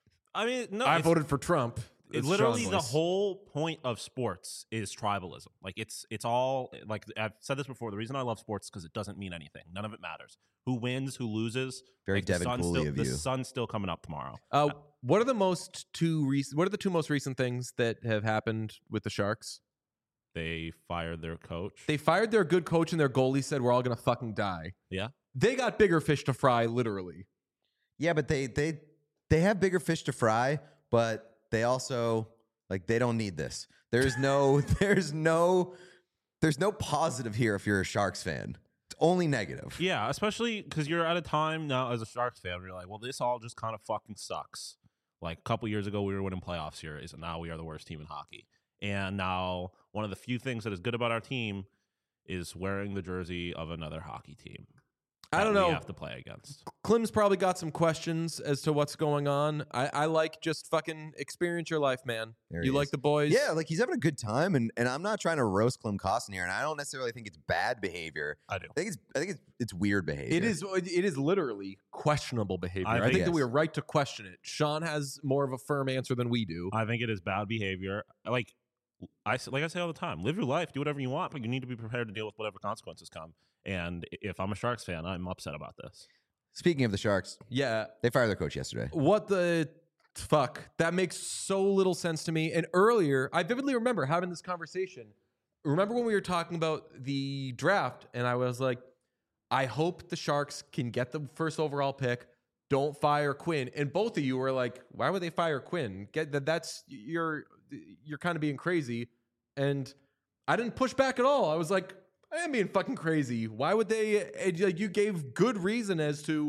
I mean, no, I it's- voted for Trump. It It's literally Sean's the voice. whole point of sports is tribalism. Like it's it's all like I've said this before. The reason I love sports is because it doesn't mean anything. None of it matters. Who wins, who loses. Very like, the Devin sun's Cooley still, of the you. sun's still coming up tomorrow. Uh, what are the most two recent? What are the two most recent things that have happened with the Sharks? They fired their coach. They fired their good coach and their goalie said we're all gonna fucking die. Yeah. They got bigger fish to fry, literally. Yeah, but they they they have bigger fish to fry, but they also like they don't need this. There's no there's no there's no positive here if you're a Sharks fan. It's only negative. Yeah, especially because you're at a time now as a Sharks fan where you're like, well, this all just kind of fucking sucks. Like a couple years ago, we were winning playoff series, and now we are the worst team in hockey. And now one of the few things that is good about our team is wearing the jersey of another hockey team. I that don't we know. have to play against. Klim's probably got some questions as to what's going on. I, I like just fucking experience your life, man. There You he like is. the boys? Yeah, like he's having a good time, and, and I'm not trying to roast Klim Kostin here, and I don't necessarily think it's bad behavior. I do. I think it's I think it's it's weird behavior. It is. It is literally questionable behavior. I I, think- think that Yes. we are right to question it. Sean has more of a firm answer than we do. I think it is bad behavior. Like I s- like I say all the time, live your life, do whatever you want, but you need to be prepared to deal with whatever consequences come. And i- if I'm a Sharks fan, I'm upset about this. Speaking of the Sharks, Yeah. they fired their coach yesterday. What the fuck? That makes so little sense to me. And earlier, I vividly remember having this conversation. Remember when we were talking about the draft, and I was like, I hope the Sharks can get the first overall pick. Don't fire Quinn. And both of you were like, why would they fire Quinn? Get that that's you're you're kind of being crazy. And I didn't push back at all. I was like, I am being fucking crazy. Why would they? And like, you gave good reason as to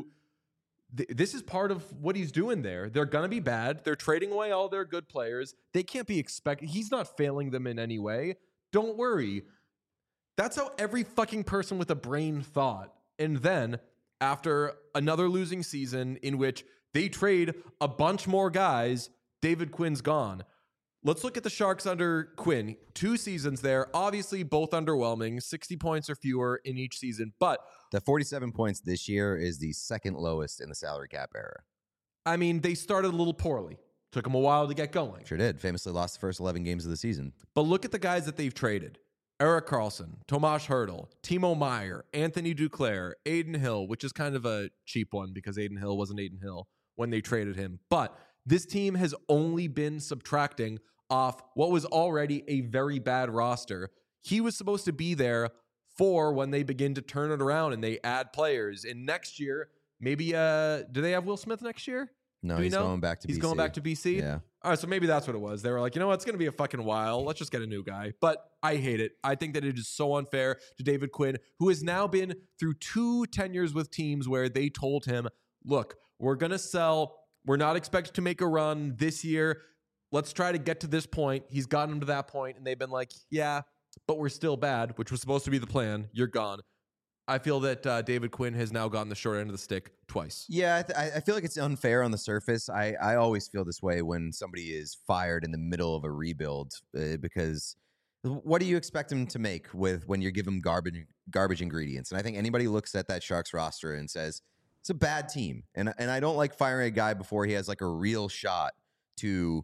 th- this is part of what he's doing there. They're gonna be bad. They're trading away all their good players. They can't be expected. He's not failing them in any way. Don't worry. That's how every fucking person with a brain thought. And then after another losing season in which they trade a bunch more guys, David Quinn's gone. Let's look at the Sharks under Quinn. Two seasons there, obviously both underwhelming, sixty points or fewer in each season. But The forty-seven points this year is the second lowest in the salary cap era. I mean, they started a little poorly. Took them a while to get going. Sure did. Famously lost the first eleven games of the season. But look at the guys that they've traded. Eric Carlson, Tomas Hertl, Timo Meyer, Anthony Duclair, Aiden Hill, which is kind of a cheap one because Aiden Hill wasn't Aiden Hill when they traded him. But this team has only been subtracting off what was already a very bad roster. He was supposed to be there for when they begin to turn it around and they add players. And next year, maybe, uh, do they have Will Smith next year? No, Do we he's know? going back to He's B C. going back to B C? Yeah. All right, so maybe that's what it was. They were like, you know what? It's going to be a fucking while. Let's just get a new guy. But I hate it. I think that it is so unfair to David Quinn, who has now been through two tenures with teams where they told him, look, we're going to sell. We're not expected to make a run this year. Let's try to get to this point. He's gotten them to that point, and they've been like, yeah, but we're still bad, which was supposed to be the plan. You're gone. I feel that uh, David Quinn has now gotten the short end of the stick twice. Yeah, I, th- I I feel like it's unfair on the surface. I, I always feel this way when somebody is fired in the middle of a rebuild uh, because what do you expect him to make with when you give him garbage garbage ingredients? And I think anybody looks at that Sharks roster and says It's a bad team, and and I don't like firing a guy before he has like a real shot to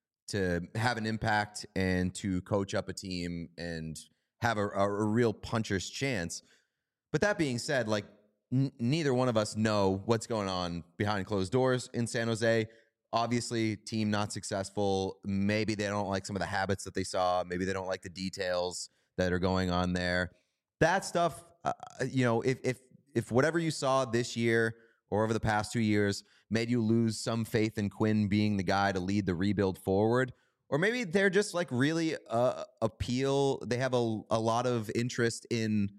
to have an impact and to coach up a team and have a, a, a real puncher's chance. But that being said, like n- neither one of us know what's going on behind closed doors in San Jose. Obviously, team not successful. Maybe they don't like some of the habits that they saw. Maybe they don't like the details that are going on there. That stuff, uh, you know, if if if whatever you saw this year or over the past two years made you lose some faith in Quinn being the guy to lead the rebuild forward, or maybe they're just like really uh, appeal. They have a, a lot of interest in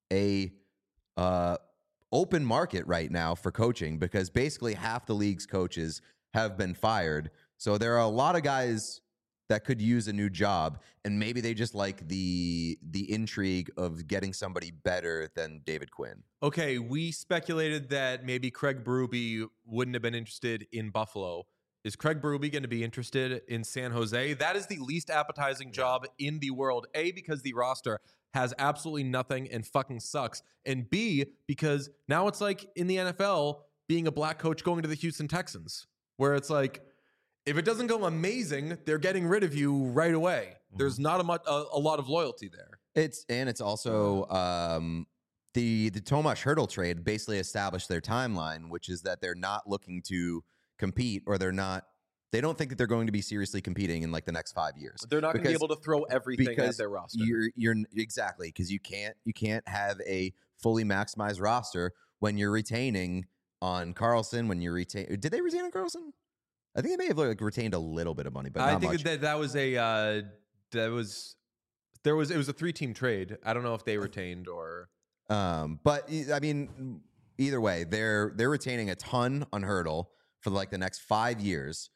a uh, open market right now for coaching, because basically half the league's coaches have been fired. So there are a lot of guys that could use a new job, and maybe they just like the the intrigue of getting somebody better than David Quinn. Okay, we speculated that maybe Craig Berube wouldn't have been interested in Buffalo. Is Craig Berube going to be interested in San Jose? That is the least appetizing job in the world. A, because the roster has absolutely nothing and fucking sucks. And B, because now it's like in the N F L being a black coach going to the Houston Texans, where it's like, if it doesn't go amazing, they're getting rid of you right away. There's not a, much, a, a lot of loyalty there. It's and it's also um, the the Tomas Hertl trade basically established their timeline, which is that they're not looking to compete, or they're not. They don't think that they're going to be seriously competing in like the next five years. They're not going to be able to throw everything because at their roster. You're you're exactly because you can't you can't have a fully maximized roster when you're retaining on Carlson. When you retain, did they retain on Carlson? I think they may have like retained a little bit of money, but not I think much. that that was a uh, that was there was it was a three team trade. I don't know if they retained or. Um, but I mean, either way, they're they're retaining a ton on Hertl for like the next five years.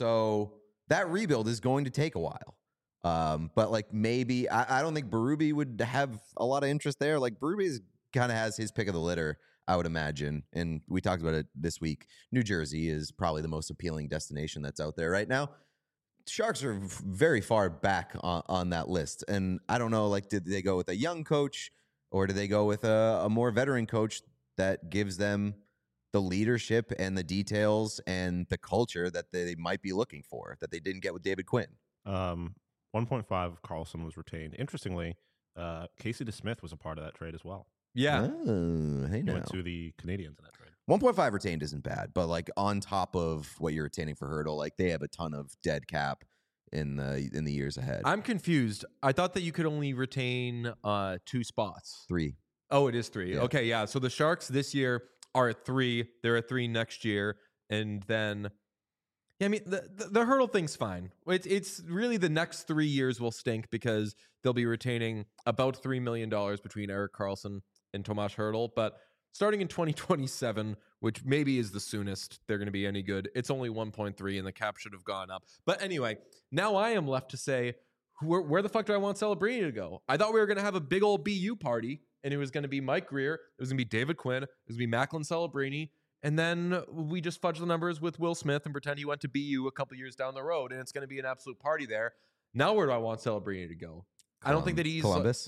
So that rebuild is going to take a while. Um, but like maybe I, I don't think Berube would have a lot of interest there. Like Berube kind of has his pick of the litter, I would imagine. And we talked about it this week. New Jersey is probably the most appealing destination that's out there right now. Sharks are very far back on, on that list. And I don't know, like, did they go with a young coach, or do they go with a, a more veteran coach that gives them the leadership and the details and the culture that they might be looking for, that they didn't get with David Quinn? Um, one point five Carlson was retained. Interestingly, uh, Casey DeSmith was a part of that trade as well. Yeah. Oh, hey He now. went to the Canadians in that trade. one point five retained isn't bad, but like on top of what you're retaining for Hertl, like they have a ton of dead cap in the in the years ahead. I'm confused. I thought that you could only retain uh, two spots. Three. Oh, it is three. Yeah. Okay, yeah. So the Sharks this year are at three. They're at three next year, and then yeah, I mean the the, the Hertl thing's fine. It's it's really the next three years will stink because they'll be retaining about three million dollars between Erik Karlsson and Tomas Hertl, but starting in twenty twenty-seven, which maybe is the soonest they're going to be any good, it's only one point three, and the cap should have gone up. But anyway, now I am left to say, where, where the fuck do I want Celebrini to go? I thought we were going to have a big old B U party, and it was going to be Mike Grier, it was going to be David Quinn, it was going to be Macklin Celebrini, and then we just fudge the numbers with Will Smith and pretend he went to B U a couple years down the road, and it's going to be an absolute party there. Now where do I want Celebrini to go? I don't think that he's... Columbus?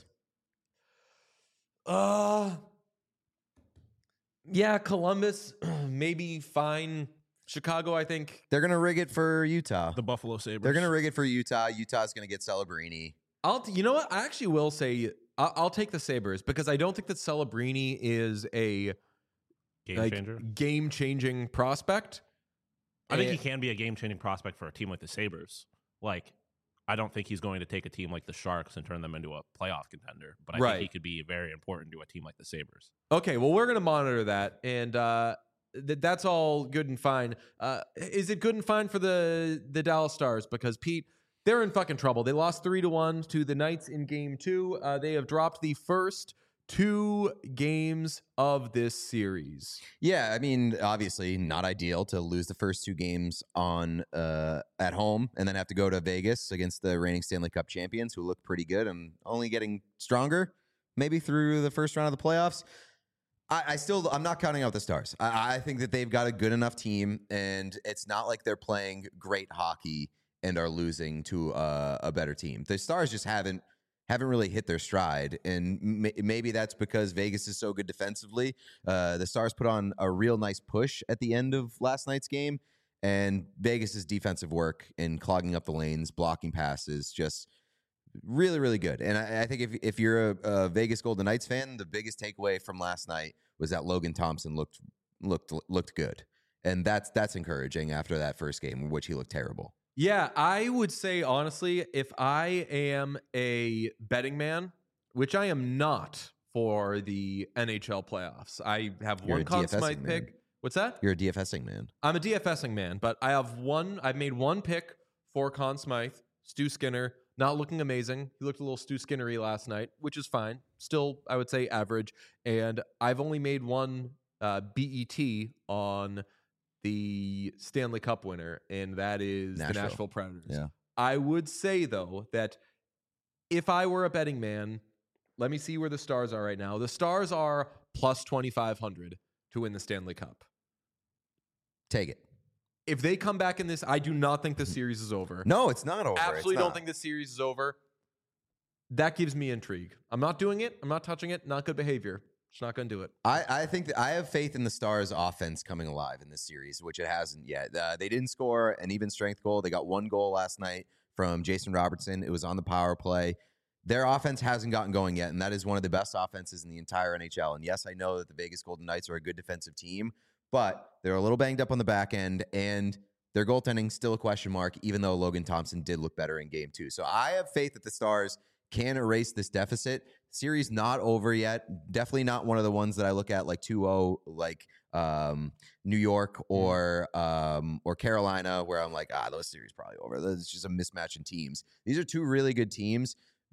Uh, yeah, Columbus, maybe fine. Chicago, I think. They're going to rig it for Utah. The Buffalo Sabres. They're going to rig it for Utah. Utah's going to get Celebrini. I'll, you know what? I actually will say I'll, I'll take the Sabres because I don't think that Celebrini is a game like, changer. game-changing prospect. I think And- he can be a game-changing prospect for a team like the Sabres. Like, I don't think he's going to take a team like the Sharks and turn them into a playoff contender, but I Right. think he could be very important to a team like the Sabres. Okay, well, we're going to monitor that, and uh, th- that's all good and fine. Uh, is it good and fine for the the Dallas Stars? Because, Pete, they're in fucking trouble. They lost three to one to the Knights in game two. Uh, they have dropped the first two games of this series. Yeah, I mean, obviously not ideal to lose the first two games on uh, at home and then have to go to Vegas against the reigning Stanley Cup champions, who look pretty good and only getting stronger, maybe through the first round of the playoffs. I, I still, I'm not counting out the Stars. I, I think that they've got a good enough team, and it's not like they're playing great hockey and are losing to uh, a better team. The Stars just haven't haven't really hit their stride. And m- maybe that's because Vegas is so good defensively. Uh, the Stars put on a real nice push at the end of last night's game, and Vegas's defensive work in clogging up the lanes, blocking passes, just really, really good. And I, I think if if you're a, a Vegas Golden Knights fan, the biggest takeaway from last night was that Logan Thompson looked looked looked good, and that's that's encouraging after that first game, in which he looked terrible. Yeah, I would say honestly, if I am a betting man, which I am not for the N H L playoffs, I have You're one a Conn DFSing Smythe man. pick. What's that? You're a DFSing man. I'm a DFSing man, but I have one. I've made one pick for Conn Smythe, Stu Skinner. Not looking amazing. He looked a little Stu Skinnery last night, which is fine. Still, I would say average. And I've only made one uh, B E T on the Stanley Cup winner, and that is Nashville. the Nashville Predators. Yeah. I would say, though, that if I were a betting man, let me see where the Stars are right now. The Stars are plus twenty-five hundred to win the Stanley Cup. Take it. If they come back in this, I do not think the series is over. No, it's not over. Absolutely It's don't not. think the series is over. That gives me intrigue. I'm not doing it. I'm not touching it. Not good behavior. Just not going to do it. I, I think that I have faith in the Stars' offense coming alive in this series, which it hasn't yet. Uh, they didn't score an even strength goal. They got one goal last night from Jason Robertson. It was on the power play. Their offense hasn't gotten going yet, and that is one of the best offenses in the entire N H L. And yes, I know that the Vegas Golden Knights are a good defensive team, but they're a little banged up on the back end, and their goaltending still a question mark, even though Logan Thompson did look better in game two. So I have faith that the Stars can erase this deficit. Series not over yet. Definitely not one of the ones that I look at like two oh, like um, New York or um, or Carolina, where I'm like, ah, those series probably over. It's just a mismatch in teams. These are two really good teams.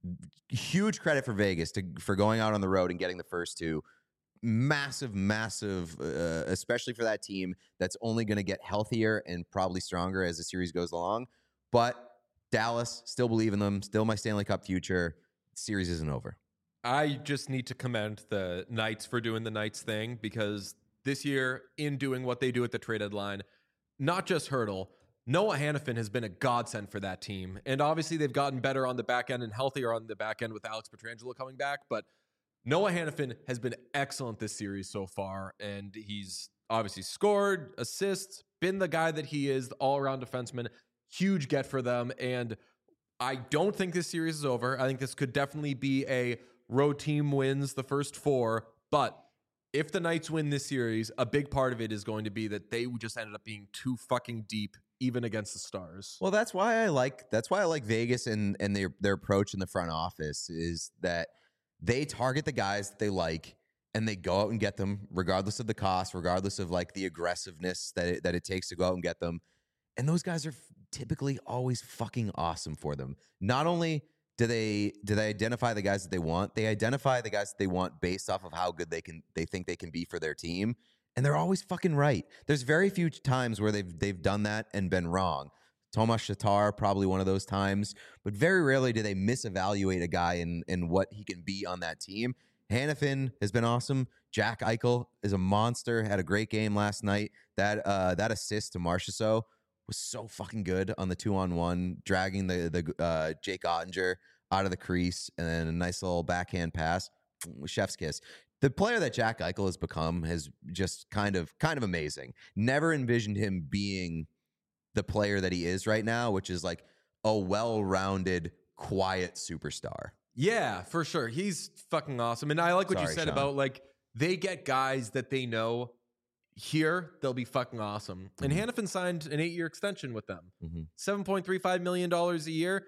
Huge credit for Vegas to for going out on the road and getting the first two. Massive, massive, uh, especially for that team that's only going to get healthier and probably stronger as the series goes along. But Dallas, still believe in them. Still my Stanley Cup future. Series isn't over. I just need to commend the Knights for doing the Knights thing, because this year, in doing what they do at the trade deadline, not just Hurdle, Noah Hannafin has been a godsend for that team. And obviously they've gotten better on the back end and healthier on the back end with Alex Pietrangelo coming back. But Noah Hannafin has been excellent this series so far. And he's obviously scored, assists, been the guy that he is, the all-around defenseman. Huge get for them. And I don't think this series is over. I think this could definitely be a road team wins the first four. But if the Knights win this series, a big part of it is going to be that they just ended up being too fucking deep, even against the Stars. Well, that's why I like that's why I like Vegas and and their their approach in the front office is that they target the guys that they like and they go out and get them regardless of the cost, regardless of like the aggressiveness that it, that it takes to go out and get them. And those guys are f- typically always fucking awesome for them. Not only do they do they identify the guys that they want, they identify the guys that they want based off of how good they can they think they can be for their team. And they're always fucking right. There's very few times where they've they've done that and been wrong. Tomas Tatar, probably one of those times, but very rarely do they misevaluate a guy in, in what he can be on that team. Hannafin has been awesome. Jack Eichel is a monster, had a great game last night. That uh, that assist to Marchessault was so fucking good on the two-on-one, dragging the, the uh, Jake Ottinger out of the crease, and then a nice little backhand pass. Chef's kiss. The player that Jack Eichel has become has just kind of kind of amazing. Never envisioned him being the player that he is right now, which is like a well-rounded, quiet superstar. Yeah, for sure. He's fucking awesome. And I like what Sorry, you said Sean. about like they get guys that they know here, they'll be fucking awesome. And Mhm. Hannafin signed an eight-year extension with them. Mm-hmm. seven point three five million dollars a year.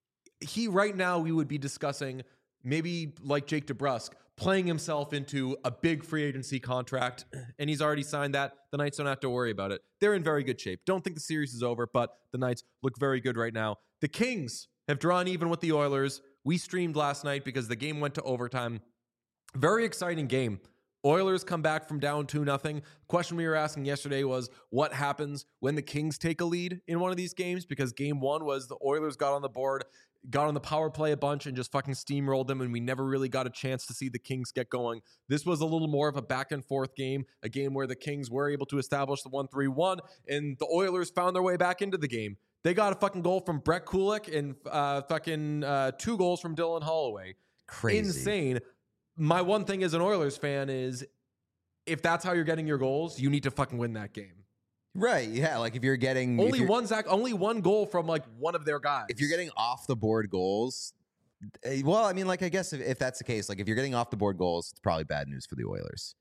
He right now we would be discussing maybe like Jake DeBrusk playing himself into a big free agency contract, and he's already signed that. The Knights don't have to worry about it. They're in very good shape. Don't think the series is over, but the Knights look very good right now. The Kings have drawn even with the Oilers. We streamed last night because the game went to overtime. Very exciting game. Oilers come back from down two nothing. Question we were asking yesterday was what happens when the Kings take a lead in one of these games, because game one was the Oilers got on the board, got on the power play a bunch and just fucking steamrolled them, and we never really got a chance to see the Kings get going. This was a little more of a back and forth game, a game where the Kings were able to establish the one three one, and the Oilers found their way back into the game. They got a fucking goal from Brett Kulick and uh, fucking uh, two goals from Dylan Holloway. Crazy. Insane. My one thing as an Oilers fan is if that's how you're getting your goals, you need to fucking win that game. Right. Yeah. Like if you're getting if Only you're, one Zach, only one goal from like one of their guys. if you're getting off the board goals, eh, well, I mean, like I guess if, if that's the case, like if you're getting off the board goals, it's probably bad news for the Oilers.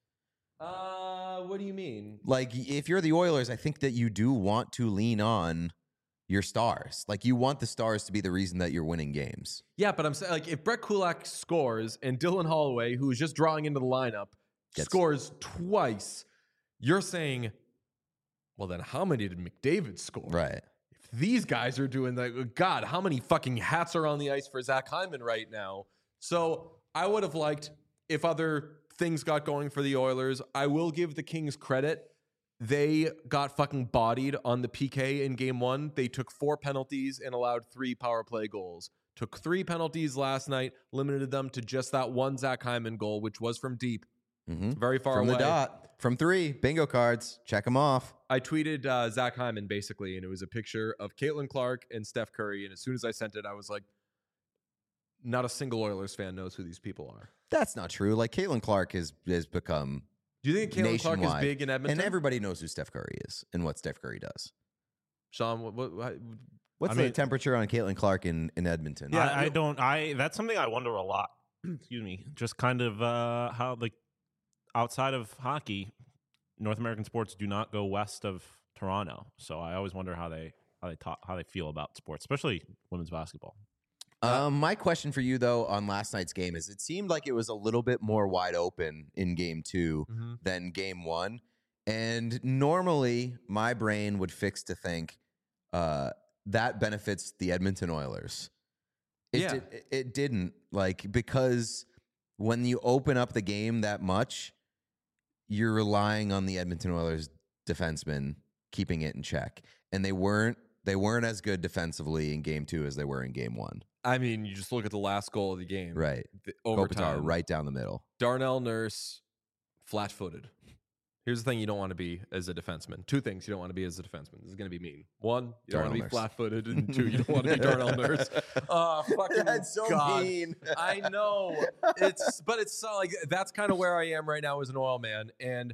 Uh, what do you mean? Like if you're the Oilers, I think that you do want to lean on your stars. Like you want the stars to be the reason that you're winning games. Yeah, but I'm saying like if Brett Kulak scores and Dylan Holloway, who is just drawing into the lineup, Gets- scores twice, you're saying, well, then how many did McDavid score? Right. If these guys are doing that, God, how many fucking hats are on the ice for Zach Hyman right now? So I would have liked if other things got going for the Oilers. I will give the Kings credit. They got fucking bodied on the P K in game one. They took four penalties and allowed three power play goals. Took three penalties last night, limited them to just that one Zach Hyman goal, which was from deep, Mm-hmm. very far From away. the dot. From three. Bingo cards. Check them off. I tweeted uh, Zach Hyman basically, and it was a picture of Caitlin Clark and Steph Curry. And as soon as I sent it, I was like, not a single Oilers fan knows who these people are. That's not true. Like Caitlin Clark has has become Do you think Caitlin Clark is nationwide. big in Edmonton? And everybody knows who Steph Curry is and what Steph Curry does. Sean, what, what, what, What's I the mean- temperature on Caitlin Clark in, in Edmonton? Yeah, I, I you- don't. I that's something I wonder a lot. Excuse me. Just kind of uh, how like outside of hockey, North American sports do not go west of Toronto. So I always wonder how they how they talk how they feel about sports, especially women's basketball. Um, my question for you though on last night's game is: it seemed like it was a little bit more wide open in game two Mhm. than game one, and normally my brain would fix to think uh, that benefits the Edmonton Oilers. It Yeah. did, it- it didn't like because when you open up the game that much, you're relying on the Edmonton Oilers defensemen keeping it in check, and they weren't. They weren't as good defensively in game two as they were in game one. I mean, you just look at the last goal of the game. Right. The Kopitar overtime. right down the middle. Darnell Nurse, flat footed. Here's the thing you don't want to be as a defenseman. Two things you don't want to be as a defenseman. This is going to be mean. One, you don't want to Darnell be Nurse. flat footed. And two, you don't want to be Darnell Nurse. Oh, fucking That's so God. mean. I know. It's but it's so like that's kind of where I am right now as an oil man. And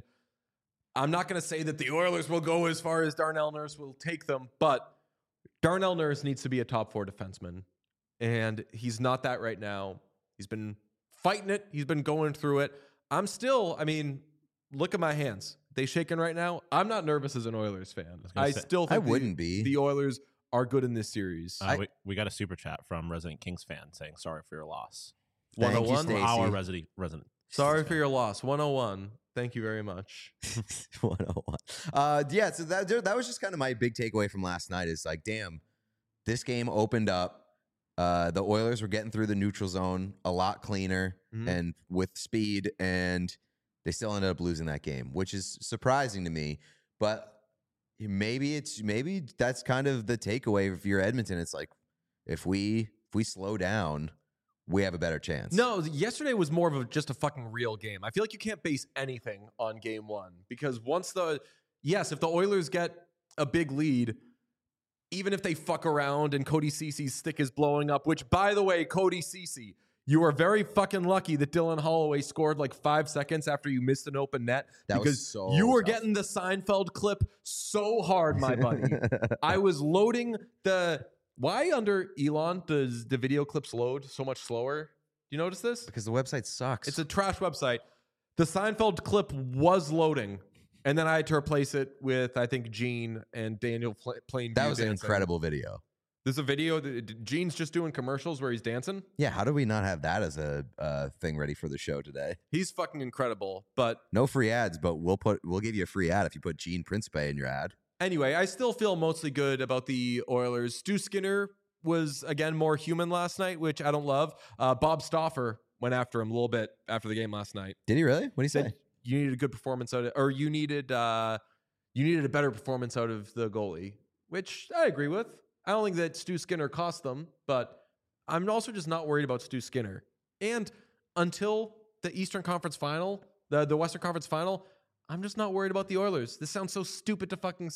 I'm not gonna say that the Oilers will go as far as Darnell Nurse will take them, but Darnell Nurse needs to be a top four defenseman. And he's not that right now. He's been fighting it, he's been going through it. I'm still, I mean, look at my hands. They shaking right now. I'm not nervous as an Oilers fan. was gonna I say- still think I the- wouldn't be. the Oilers are good in this series. Uh, I- we, we got a super chat from resident Kings fan saying sorry for your loss. Thank you, one oh one? Stacey. Our resident resident. Sorry Kings for fan. your loss. one oh one. Thank you very much. one oh one. Uh, yeah, so that that was just kind of my big takeaway from last night is like, damn, this game opened up. Uh, the Oilers were getting through the neutral zone a lot cleaner Mhm. and with speed, and they still ended up losing that game, which is surprising to me. But maybe it's maybe that's kind of the takeaway if you're Edmonton. It's like if we if we slow down, we have a better chance. No, yesterday was more of a, just a fucking real game. I feel like you can't base anything on game one because once the, yes, if the Oilers get a big lead, even if they fuck around and Cody Cece's stick is blowing up, which by the way, Cody Cece, you are very fucking lucky that Dylan Holloway scored like five seconds after you missed an open net That was because so you were tough. getting the Seinfeld clip so hard, my buddy. I was loading the. Why under Elon does the video clips load so much slower? Do you notice this? because the website sucks. It's a trash website. The Seinfeld clip was loading, and then I had to replace it with I think Gene and Daniel pl- playing. that View was an dancing. incredible video. There's a video that Gene's just doing commercials where he's dancing. Yeah, how do we not have that as a uh, thing ready for the show today? He's fucking incredible. But No free ads, but we'll put we'll give you a free ad if you put Gene Principe in your ad. anyway, I still feel mostly good about the Oilers. Stu Skinner was again more human last night, which I don't love. Uh, Bob Stauffer went after him a little bit after the game last night. Did he really? What did he say? Said you needed a good performance out of, or you needed uh, you needed a better performance out of the goalie, which I agree with. I don't think that Stu Skinner cost them, but I'm also just not worried about Stu Skinner. And until the Eastern Conference Final, the the Western Conference Final, I'm just not worried about the Oilers. This sounds so stupid to fucking say,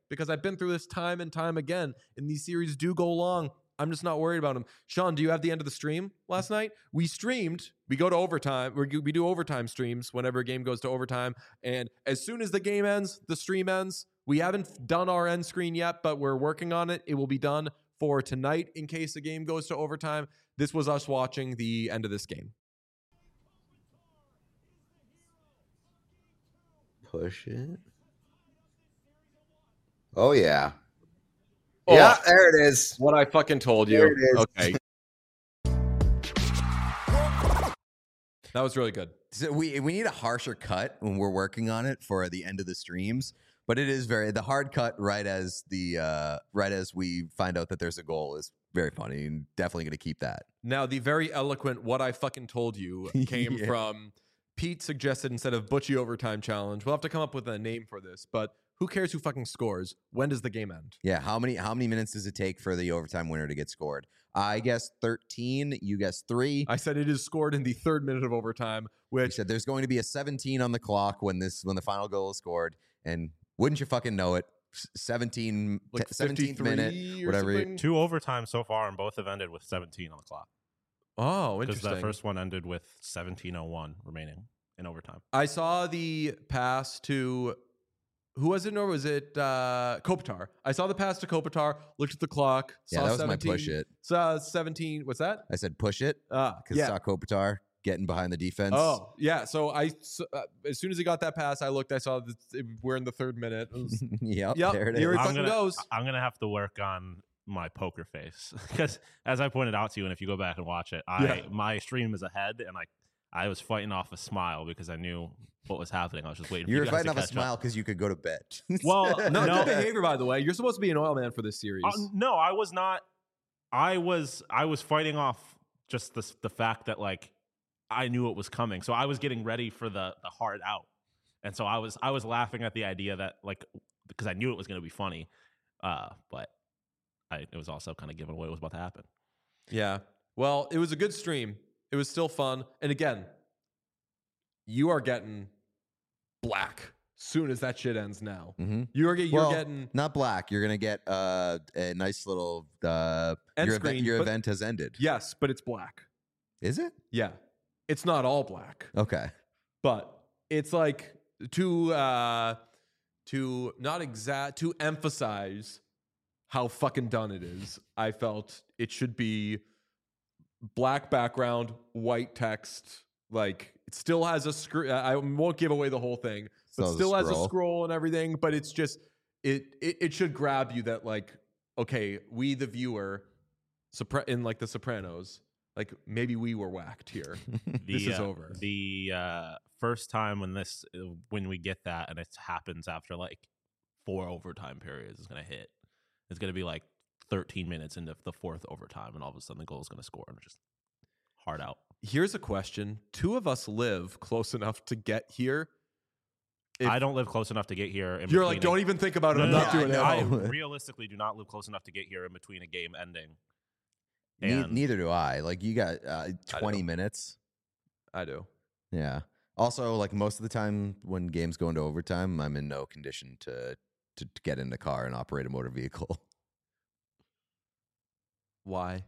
because I've been through this time and time again, and these series do go long. I'm just not worried about them. Sean, do you have the end of the stream last night? We streamed. We go to overtime. We we do overtime streams whenever a game goes to overtime. And as soon as the game ends, the stream ends. We haven't done our end screen yet, but we're working on it. It will be done for tonight in case the game goes to overtime. This was us watching the end of this game. Push it. Oh, yeah. Oh, yeah, there it is. What I fucking told There you. it is. Okay. That was really good. So we we need a harsher cut when we're working on it for the end of the streams, but it is very the hard cut right as the uh, right as we find out that there's a goal is very funny and definitely going to keep that. Now, the very eloquent "what I fucking told you" came Yeah. from Pete. Suggested instead of Butchie overtime challenge. We'll have to come up with a name for this, but who cares who fucking scores? When does the game end? Yeah, how many how many minutes does it take for the overtime winner to get scored? I guess thirteen. You guess three. I said it is scored in the third minute of overtime, We which said there's going to be a seventeen on the clock when this when the final goal is scored, and wouldn't you fucking know it? s- seventeen like t- seventeenth minute, fifty-three or whatever. something? Two overtimes so far, and both have ended with seventeen on the clock. Oh, Because interesting. the first one ended with seventeen oh one remaining in overtime. I saw the pass to who was it? Or was it uh, Kopitar? I saw the pass to Kopitar. Looked at the clock. Yeah, saw that was seventeen, my push it. Saw seventeen. What's that? I said push it Ah, because yeah. saw Kopitar getting behind the defense. Oh, yeah. So I, s- uh, as soon as he got that pass, I looked. I saw that it- we're in the third minute. It was- yep, Yep, there it here is. it I'm fucking gonna, goes. I'm gonna have to work on my poker face because, as I pointed out to you, and if you go back and watch it, I Yeah. my stream is ahead, and I I was fighting off a smile because I knew what was happening. I was just waiting. You for were you guys fighting to off a catch up. smile because you could go to bed. Well, no, no. good behavior, by the way. You're supposed to be an oil man for this series. Uh, no, I was not. I was I was fighting off just the the fact that like I knew it was coming, so I was getting ready for the the hard out, and so I was I was laughing at the idea that like because I knew it was going to be funny, uh, but I it was also kind of giving away what was about to happen. Yeah. Well, it was a good stream. It was still fun. And again, you are getting black soon as that shit ends now. hmm You are get, you're Well, getting Not black. You're gonna get uh, a nice little uh, End your screen, event. Your but- event has ended. yes, but it's black. Is it? Yeah. It's not all black, Okay. but it's like to uh to not exact to emphasize how fucking done it is. I felt it should be black background, white text. Like it still has a screen. I won't give away the whole thing, but Still has a still has a scroll. scroll and everything. But it's just it it, it should grab you that like okay, we the viewer, Sopra- in like the Sopranos, like maybe we were whacked here. This The, is uh, over. The uh, first time when this when we get that and it happens after like four overtime periods is gonna hit. It's gonna be like thirteen minutes into the fourth overtime, and all of a sudden the goal is gonna score and just hard out. Here's a question: two of us live close enough to get here. If I don't live close enough to get here. In You're like, between don't a- even think about it. No, I'm no, not no, doing it. I, I know. realistically do not live close enough to get here in between a game ending. Ne- And neither do I. Like you got uh, I twenty do. minutes. I do. Yeah. Also, like most of the time when games go into overtime, I'm in no condition to to, to get in the car and operate a motor vehicle. Why?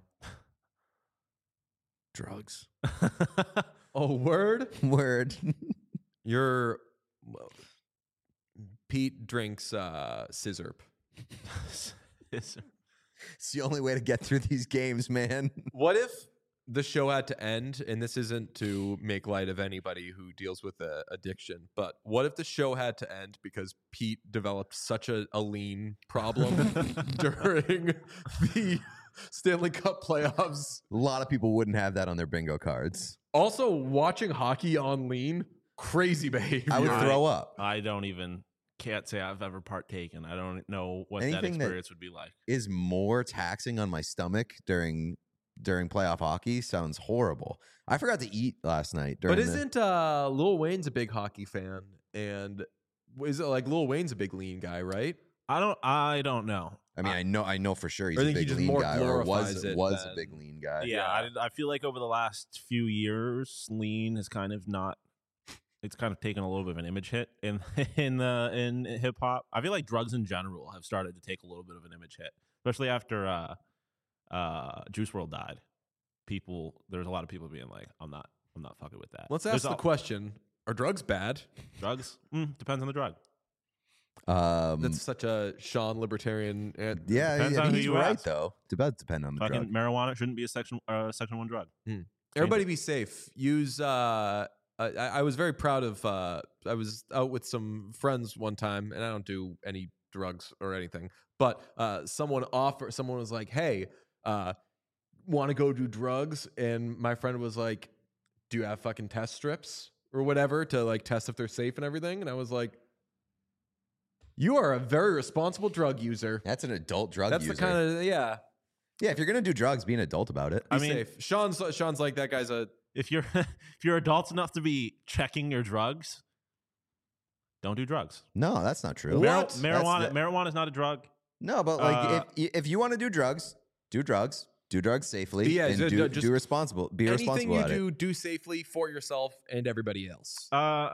Drugs. Oh, word. Word. You're well, Pete drinks uh, scissorp. It's the only way to get through these games, man. What if the show had to end? And this isn't to make light of anybody who deals with uh, addiction, but what if the show had to end because Pete developed such a, a lean problem during the Stanley Cup playoffs? A lot of people wouldn't have that on their bingo cards. Also, watching hockey on lean, crazy behavior. I would I- throw up. I don't even can't say I've ever partaken. I don't know what that Anything that- experience would be like. Is more taxing on my stomach during during playoff hockey sounds horrible. I forgot to eat last night. During But the- isn't uh, Lil Wayne's a big hockey fan? And is it like Lil Wayne's a big lean guy, right? I don't. I don't know. I mean, I know, I know for sure he's I a think he big just lean more guy, or was glorifies it was a than- big lean guy. Yeah, I, did- I feel like over the last few years, lean has kind of not it's kind of taken a little bit of an image hit in in the in hip hop. I feel like drugs in general have started to take a little bit of an image hit, especially after uh, uh, Juice world died. People, there's a lot of people being like, "I'm not, I'm not fucking with that." Let's There's ask the all- question: are drugs bad? Drugs mm, depends on the drug. Um, That's such a Sean libertarian. Uh, yeah, depends yeah, on who he's you right ask. though. Depends depend on the Fucking drug. marijuana shouldn't be a section uh, section one drug. Everybody be safe. Use. Uh, I, I was very proud of. Uh, I was out with some friends one time, and I don't do any drugs or anything. But uh, someone offer. Someone was like, "Hey, uh, want to go do drugs?" And my friend was like, "Do you have fucking test strips or whatever to like test if they're safe and everything?" And I was like, "You are a very responsible drug user." That's an adult drug That's user. the kind of yeah. yeah, if you're gonna do drugs, be an adult about it. Be I mean- safe. Sean's Sean's like that guy's a. If you're if you're adults enough to be checking your drugs, don't do drugs. No, that's not true. What? Mar- That's marijuana the- marijuana is not a drug. No, but like Uh, if if you want to do drugs, do drugs. Do drugs safely. Yeah, and ju- do, ju- just do responsible. Be Anything responsible you at it. do, do safely for yourself and everybody else. Uh,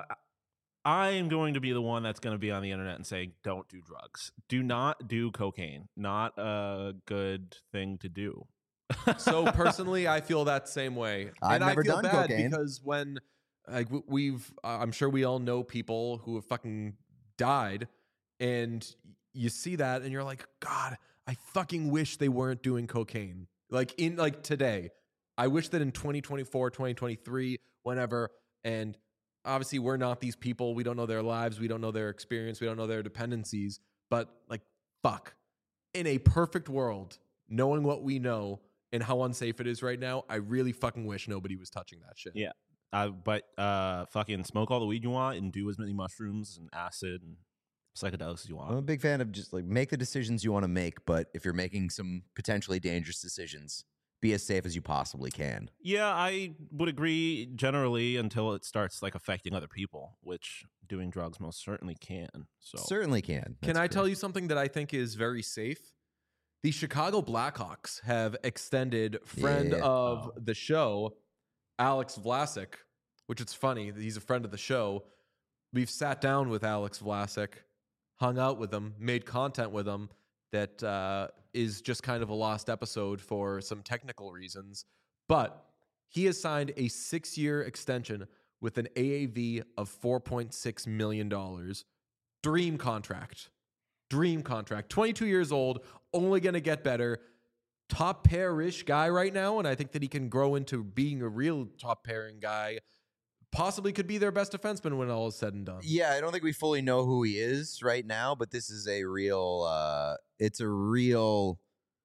I am going to be the one that's going to be on the internet and say, don't do drugs. Do not do cocaine. Not a good thing to do. So personally, I feel that same way. I've and never I feel done bad cocaine. because when like w- we've, uh, I'm sure we all know people who have fucking died, and you see that, and you're like, God, I fucking wish they weren't doing cocaine. Like in like today, I wish that in twenty twenty-four, twenty twenty-three, whenever, and obviously we're not these people. We don't know their lives. We don't know their experience. We don't know their dependencies. But like, fuck, in a perfect world, knowing what we know and how unsafe it is right now, I really fucking wish nobody was touching that shit. Yeah. Uh, but uh, fucking smoke all the weed you want and do as many mushrooms and acid and psychedelics as you I'm a want. big fan of just like make the decisions you want to make, but if you're making some potentially dangerous decisions, be as safe as you possibly can. Yeah, I would agree generally until it starts like affecting other people, which doing drugs most certainly can. So Certainly can. Can I tell you something that I think is very safe? The Chicago Blackhawks have extended friend Yeah. of Oh. the show, Alex Vlasic, which it's funny that he's a friend of the show. We've sat down with Alex Vlasic, hung out with him, made content with him that uh, is just kind of a lost episode for some technical reasons. But he has signed a six-year extension with an A A V of four point six million dollars. Dream contract. Dream contract. twenty-two years old, only going to get better. Top pair-ish guy right now, and I think that he can grow into being a real top pairing guy. Possibly could be their best defenseman when all is said and done. Yeah, I don't think we fully know who he is right now, but this is a real uh it's a real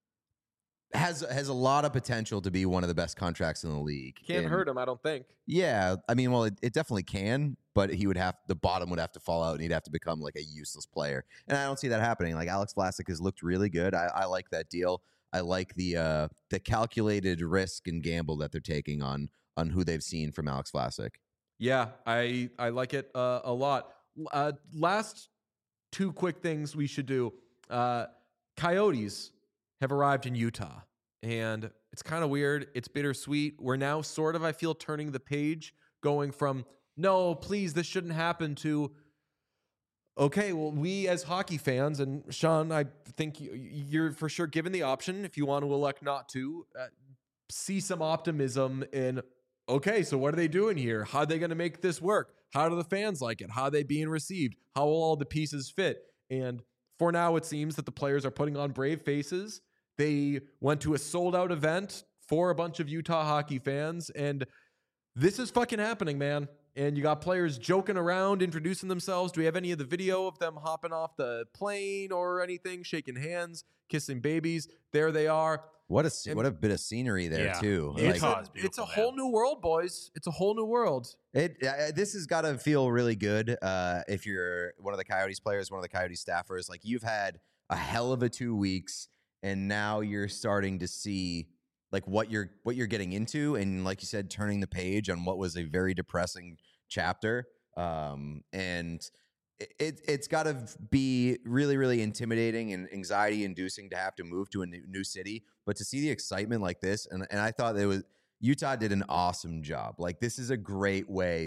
has has a lot of potential to be one of the best contracts in the league. Can't And- hurt him, I don't think. Yeah, I mean, well, it, it definitely can, but he would have the bottom would have to fall out, and he'd have to become like a useless player. And I don't see that happening. Like Alex Vlasic has looked really good. I, I like that deal. I like the uh, the calculated risk and gamble that they're taking on on who they've seen from Alex Vlasic. Yeah, I I like it uh, a lot. Uh, last two quick things we should do. Uh, Coyotes have arrived in Utah, and it's kind of weird. It's bittersweet. We're now sort of, I feel, turning the page, going from no, please, this shouldn't happen to okay, well, we as hockey fans, and Sean, I think you- you're for sure given the option if you want to elect not to, uh, see some optimism in okay, so what are they doing here? How are they going to make this work? How do the fans like it? How are they being received? How will all the pieces fit? And for now, it seems that the players are putting on brave faces. They went to a sold out event for a bunch of Utah hockey fans, and this is fucking happening, man. And you got players joking around, introducing themselves. Do we have any of the video of them hopping off the plane or anything, shaking hands, kissing babies? There they are. What a se- what a bit of scenery there Yeah. too. It's, Utah Like, is a, it's a beautiful, whole man. new world, boys. It's a whole new world. It uh, this has got to feel really good uh, if you're one of the Coyotes players, one of the Coyotes staffers. Like you've had a hell of a two weeks, and now you're starting to see like what you're what you're getting into, and like you said, turning the page on what was a very depressing chapter. Um, and it, it it's got to be really really intimidating and anxiety inducing to have to move to a new, new city, but to see the excitement like this, and and I thought it was. Utah did an awesome job. Like this is a great way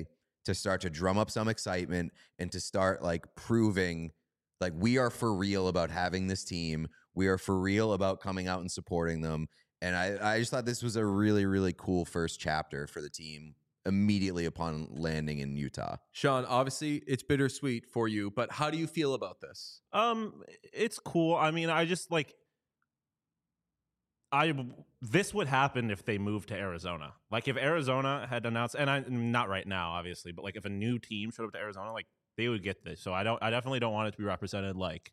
to start to drum up some excitement and to start like proving like we are for real about having this team. We are for real about coming out and supporting them. And I, I just thought this was a really, really cool first chapter for the team immediately upon landing in Utah. Sean, obviously it's bittersweet for you, but how do you feel about this? Um, it's cool. I mean, I just like I this would happen if they moved to Arizona. Like if Arizona had announced, and I not right now, obviously, but like if a new team showed up to Arizona, like they would get this. So I don't. I definitely don't want it to be represented like,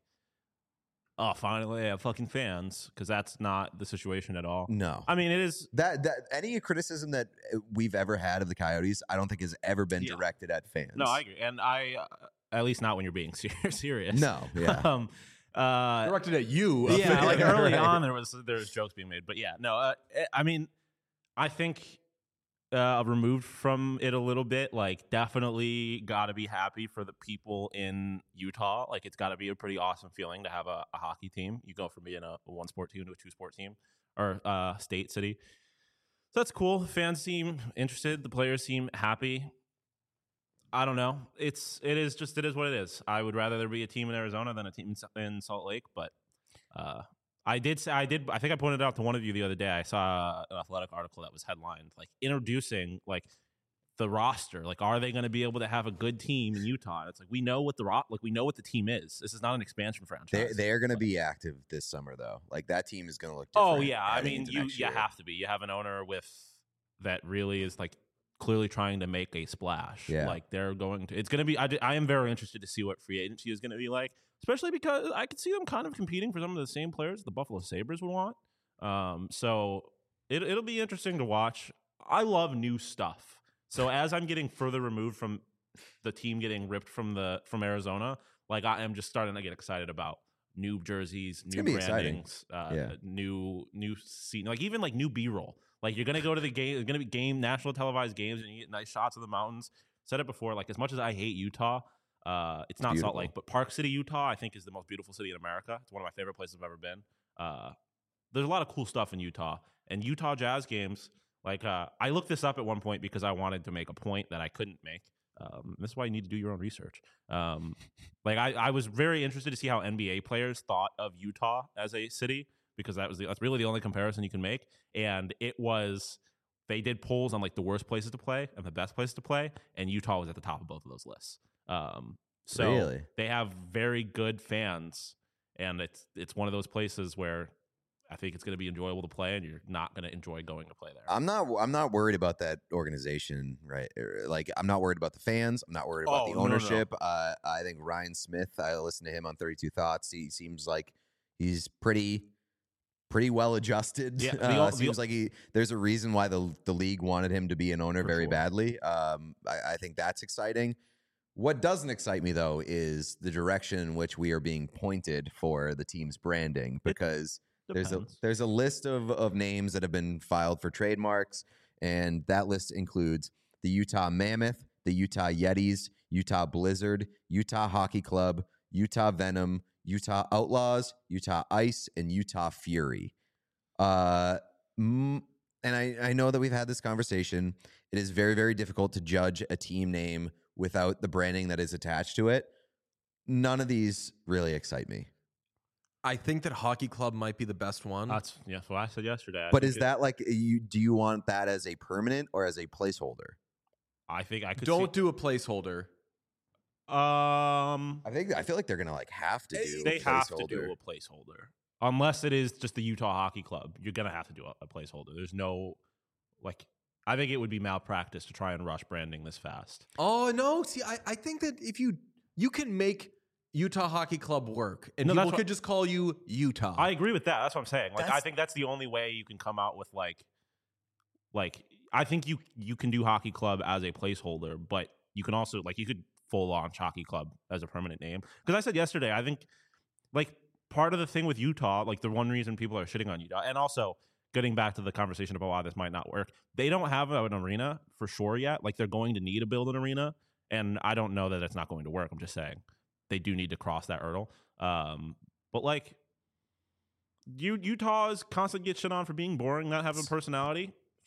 oh, finally I have fucking fans, because that's not the situation at all. No, I mean it is that that any criticism that we've ever had of the Coyotes, I don't think has ever been Yeah. directed at fans. no. I agree, and I uh, at least not when you're being ser- serious. No, yeah. um, uh, Directed at you. yeah, like Right. early on there was there was jokes being made, but yeah, no. Uh, I mean, I think uh, removed from it a little bit, like definitely got to be happy for the people in Utah. Like it's got to be a pretty awesome feeling to have a, a hockey team. You go from being a, a one sport team to a two sport team or uh, state city. So that's cool. Fans seem interested. The players seem happy. I don't know. It's it is just it is what it is. I would rather there be a team in Arizona than a team in Salt Lake, but uh, I did say I did. I think I pointed out to one of you the other day. I saw an Athletic article that was headlined like introducing like the roster. Like, are they going to be able to have a good team in Utah? It's like we know what the ro- like we know what the team is. This is not an expansion franchise. They they are going to But- be active this summer though. Like that team is going to look. Oh different yeah, I heading mean into you next you year. have to be. You have an owner with that really is like clearly trying to make a splash. Yeah. Like they're going to. It's going to be. I, d- I am very interested to see what free agency is going to be like, especially because I could see them kind of competing for some of the same players the Buffalo Sabres would want. Um, so it it'll be interesting to watch. I love new stuff. So as I'm getting further removed from the team getting ripped from the from Arizona, like I am just starting to get excited about new jerseys, new gonna be exciting. brandings, uh, Yeah. new new scene, like even like new B-roll. Like you're gonna go to the game, it's gonna be game national televised games, and you get nice shots of the mountains. Said it before, like as much as I hate Utah, uh, it's not Salt beautiful. Lake, but Park City, Utah, I think is the most beautiful city in America. It's one of my favorite places I've ever been. Uh, there's a lot of cool stuff in Utah, and Utah Jazz games. Like uh, I looked this up at one point because I wanted to make a point that I couldn't make. Um, this is why you need to do your own research. Um, like I, I was very interested to see how N B A players thought of Utah as a city, because that was the, that's really the only comparison you can make. And it was they did polls on like the worst places to play and the best places to play, and Utah was at the top of both of those lists. Um, so Really? they have very good fans, and it's it's one of those places where I think it's going to be enjoyable to play, and you're not going to enjoy going to play there. I'm not. I'm not worried about that organization, right? Er, Like, I'm not worried about the fans. I'm not worried about Oh, the no, no, no. ownership. Uh, I think Ryan Smith. I listened to him on thirty-two Thoughts. He seems like he's pretty, pretty well adjusted. Yeah, the uh, o- the seems o- like he. There's a reason why the the league wanted him to be an owner For very sure. badly. Um, I, I think that's exciting. What doesn't excite me though is the direction in which we are being pointed for the team's branding, because. There's a Depends. there's a list of, of names that have been filed for trademarks, and that list includes the Utah Mammoth, the Utah Yetis, Utah Blizzard, Utah Hockey Club, Utah Venom, Utah Outlaws, Utah Ice, and Utah Fury. Uh, mm, and I, I know that we've had this conversation. It is very, very difficult to judge a team name without the branding that is attached to it. None of these really excite me. I think that Hockey Club might be the best one. That's yeah, that's what I said yesterday. I But think is it- that like you? Do you want that as a permanent or as a placeholder? I think I could Don't do a placeholder. see, um I think I feel like they're gonna like have to do. they a have to placeholder. do a placeholder unless it is just the Utah Hockey Club. You're gonna have to do a, a placeholder. There's no like. I think it would be malpractice to try and rush branding this fast. Oh no! See, I, I think that if you you can make Utah Hockey Club work, and No, people that's what- could just call you Utah. I agree with that. That's what I'm saying. Like I That's- think that's the only way you can come out with like, like I think you you can do Hockey Club as a placeholder, but you can also like you could full launch Hockey Club as a permanent name. Because I said yesterday, I think like part of the thing with Utah, like the one reason people are shitting on Utah, and also getting back to the conversation about why this might not work, they don't have an arena for sure yet. Like they're going to need to build an arena, and I don't know that it's not going to work. I'm just saying they do need to cross that hurdle. Um, but like. You, Utah is constantly get shit on for being boring, not having personality.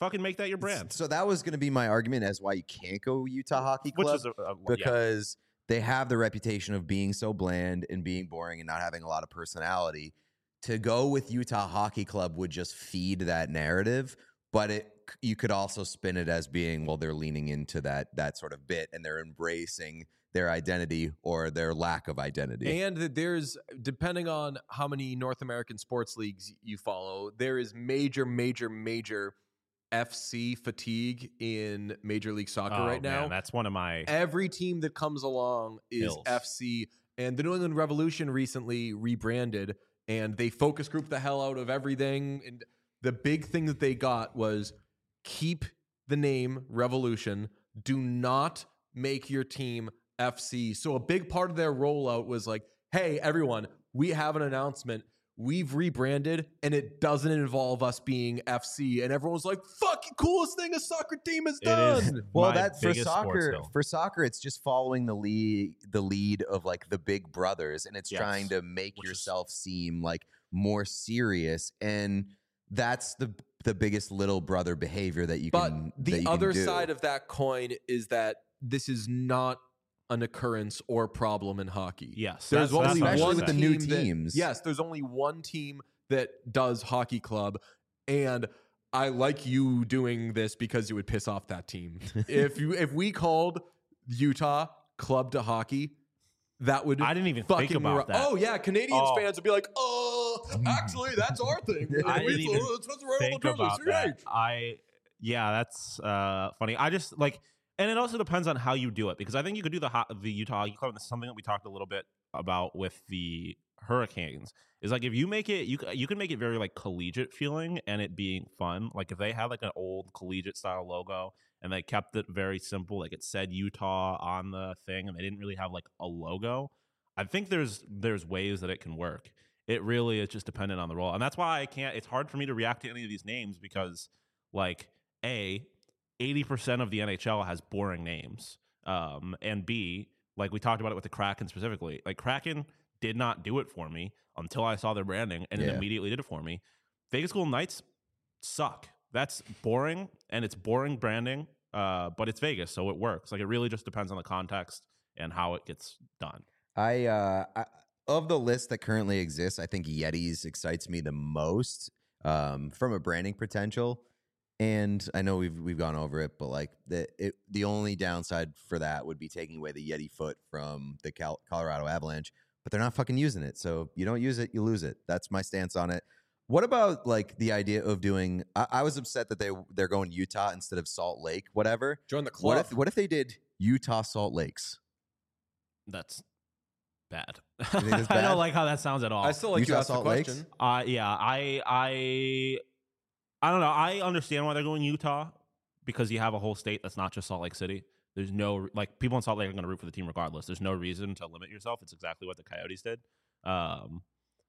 Fucking make that your brand. So that was going to be my argument as why you can't go Utah Hockey Club. Which is a, a, because they have the reputation of being so bland and being boring and not having a lot of personality. To go with Utah Hockey Club would just feed that narrative, but it you could also spin it as being, well, they're leaning into that that sort of bit and they're embracing their identity or their lack of identity. And that there's, depending on how many North American sports leagues you follow, there is major, major, major F C fatigue in Major League Soccer oh, right now. Man, that's one of my Every team that comes along is Hills. F C, and the New England Revolution recently rebranded, and they focus group the hell out of everything. And the big thing that they got was keep the name Revolution. Do not make your team F C. So a big part of their rollout was like, hey, everyone, we have an announcement. We've rebranded, and it doesn't involve us being F C. And everyone's like, fucking coolest thing a soccer team has It done. is Well, my that for biggest sports soccer, hill. for soccer, it's just following the lead, the lead of like the big brothers, and it's Yes. trying to make Which is- yourself seem like more serious, and that's the the biggest little brother behavior that you But can. that the you can other do. side of that coin is that this is not an occurrence or problem in hockey. Yes, There's that's- only that's what I'm especially one with the saying. new team that- teams. yes, there's only one team that does hockey club, and I like you doing this because it would piss off that team. if you if we called Utah Club to Hockey, that would I didn't even fucking think about ru- that. Oh yeah, Canadians Oh. fans would be like, "Oh, actually, that's our thing." I We- didn't even it's supposed to write on think the jersey, about C that. H. I yeah, that's uh, funny. I just like, and it also depends on how you do it because I think you could do the ho- the Utah Hockey Club. This is something that we talked a little bit about with the Hurricanes. Is like if you make it, you c- you can make it very like collegiate feeling and it being fun. Like if they had like an old collegiate style logo and they kept it very simple, like it said Utah on the thing, and they didn't really have like a logo. I think there's there's ways that it can work. It really is just dependent on the role, and that's why I can't. It's hard for me to react to any of these names because, like, a eighty percent of the N H L has boring names, um, and B, like we talked about it with the Kraken specifically. Like Kraken did not do it for me until I saw their branding, and Yeah. it immediately did it for me. Vegas Golden Knights suck. That's boring, and it's boring branding, uh, but it's Vegas, so it works. Like it really just depends on the context and how it gets done. I, uh, I of the list that currently exists, I think Yetis excites me the most um, from a branding potential. And I know we've we've gone over it, but like the it, the only downside for that would be taking away the Yeti foot from the Cal- Colorado Avalanche. But they're not fucking using it, so you don't use it, you lose it. That's my stance on it. What about like the idea of doing? I, I was upset that they they're going Utah instead of Salt Lake, whatever. Join the club. What if what if they did Utah Salt Lakes? That's bad. think that's I bad? don't like how that sounds at all. I still like Utah you asked the Salt Lakes? question. Uh, yeah, I, I, I don't know. I understand why they're going Utah because you have a whole state that's not just Salt Lake City. There's no like people in Salt Lake are going to root for the team regardless. There's no reason to limit yourself. It's exactly what the Coyotes did. Um,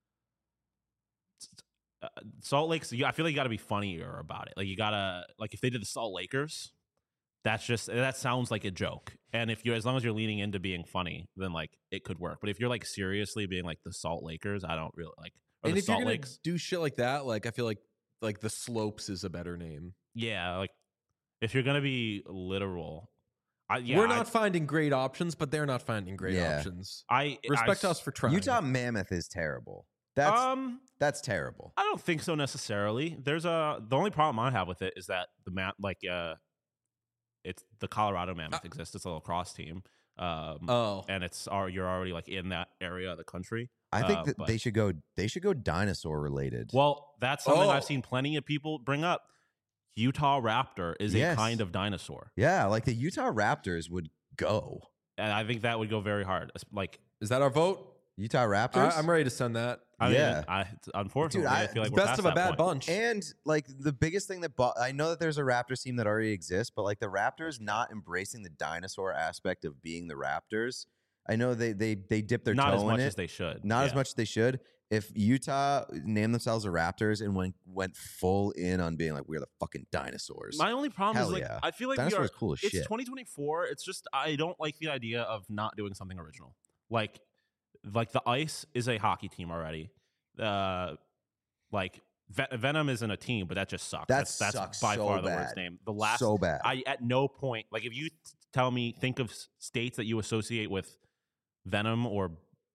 uh, Salt Lake's. I feel like you got to be funnier about it. Like you gotta like if they did the Salt Lakers, that's just that sounds like a joke. And if you, as long as you're leaning into being funny, then like it could work. But if you're like seriously being like the Salt Lakers, I don't really like. Or And the if you're Salt gonna Lakes, do shit like that, like I feel like like the Slopes is a better name. yeah, like if you're gonna be literal, I, yeah, We're I- not finding great options, but they're not finding great Yeah. options. I, Respect I, us for trying. Utah Mammoth is terrible. That's um, that's terrible. I don't think so necessarily. There's a the only problem I have with it is that the map, like, uh, it's the Colorado Mammoth exists. It's a lacrosse team, um, Oh, and it's are you're already like in that area of the country. I think Uh, that but- they should go. They should go dinosaur related. Well, that's something Oh. I've seen plenty of people bring up. Utah Raptor is Yes. a kind of dinosaur, yeah, like the Utah Raptors would go. and I think that would go very hard. It's Like, is that our vote? Utah Raptors. I, I'm ready to send that. I Yeah. mean, I, unfortunately, Dude, I, I- feel like we're Best past of a that bad point. bunch. And like the biggest thing that bo- I know that there's a Raptors team that already exists, but like the Raptors not embracing the dinosaur aspect of being the Raptors. I know they they they dip their Not toe as much in it. as they should. Not as Yeah. much as they should. If Utah named themselves the Raptors and went went full in on being like we're the fucking dinosaurs, My only problem Hell is like yeah. I feel like we dinosaurs are. is cool as It's shit. twenty twenty-four. It's just I don't like the idea of not doing something original. Like, like the Ice is a hockey team already. Uh, like Ve- Venom isn't a team, but that just sucks. That that's, that's sucks by so far the bad. worst name. The last, So bad. I at no point like if you t- tell me think of s- states that you associate with Venom or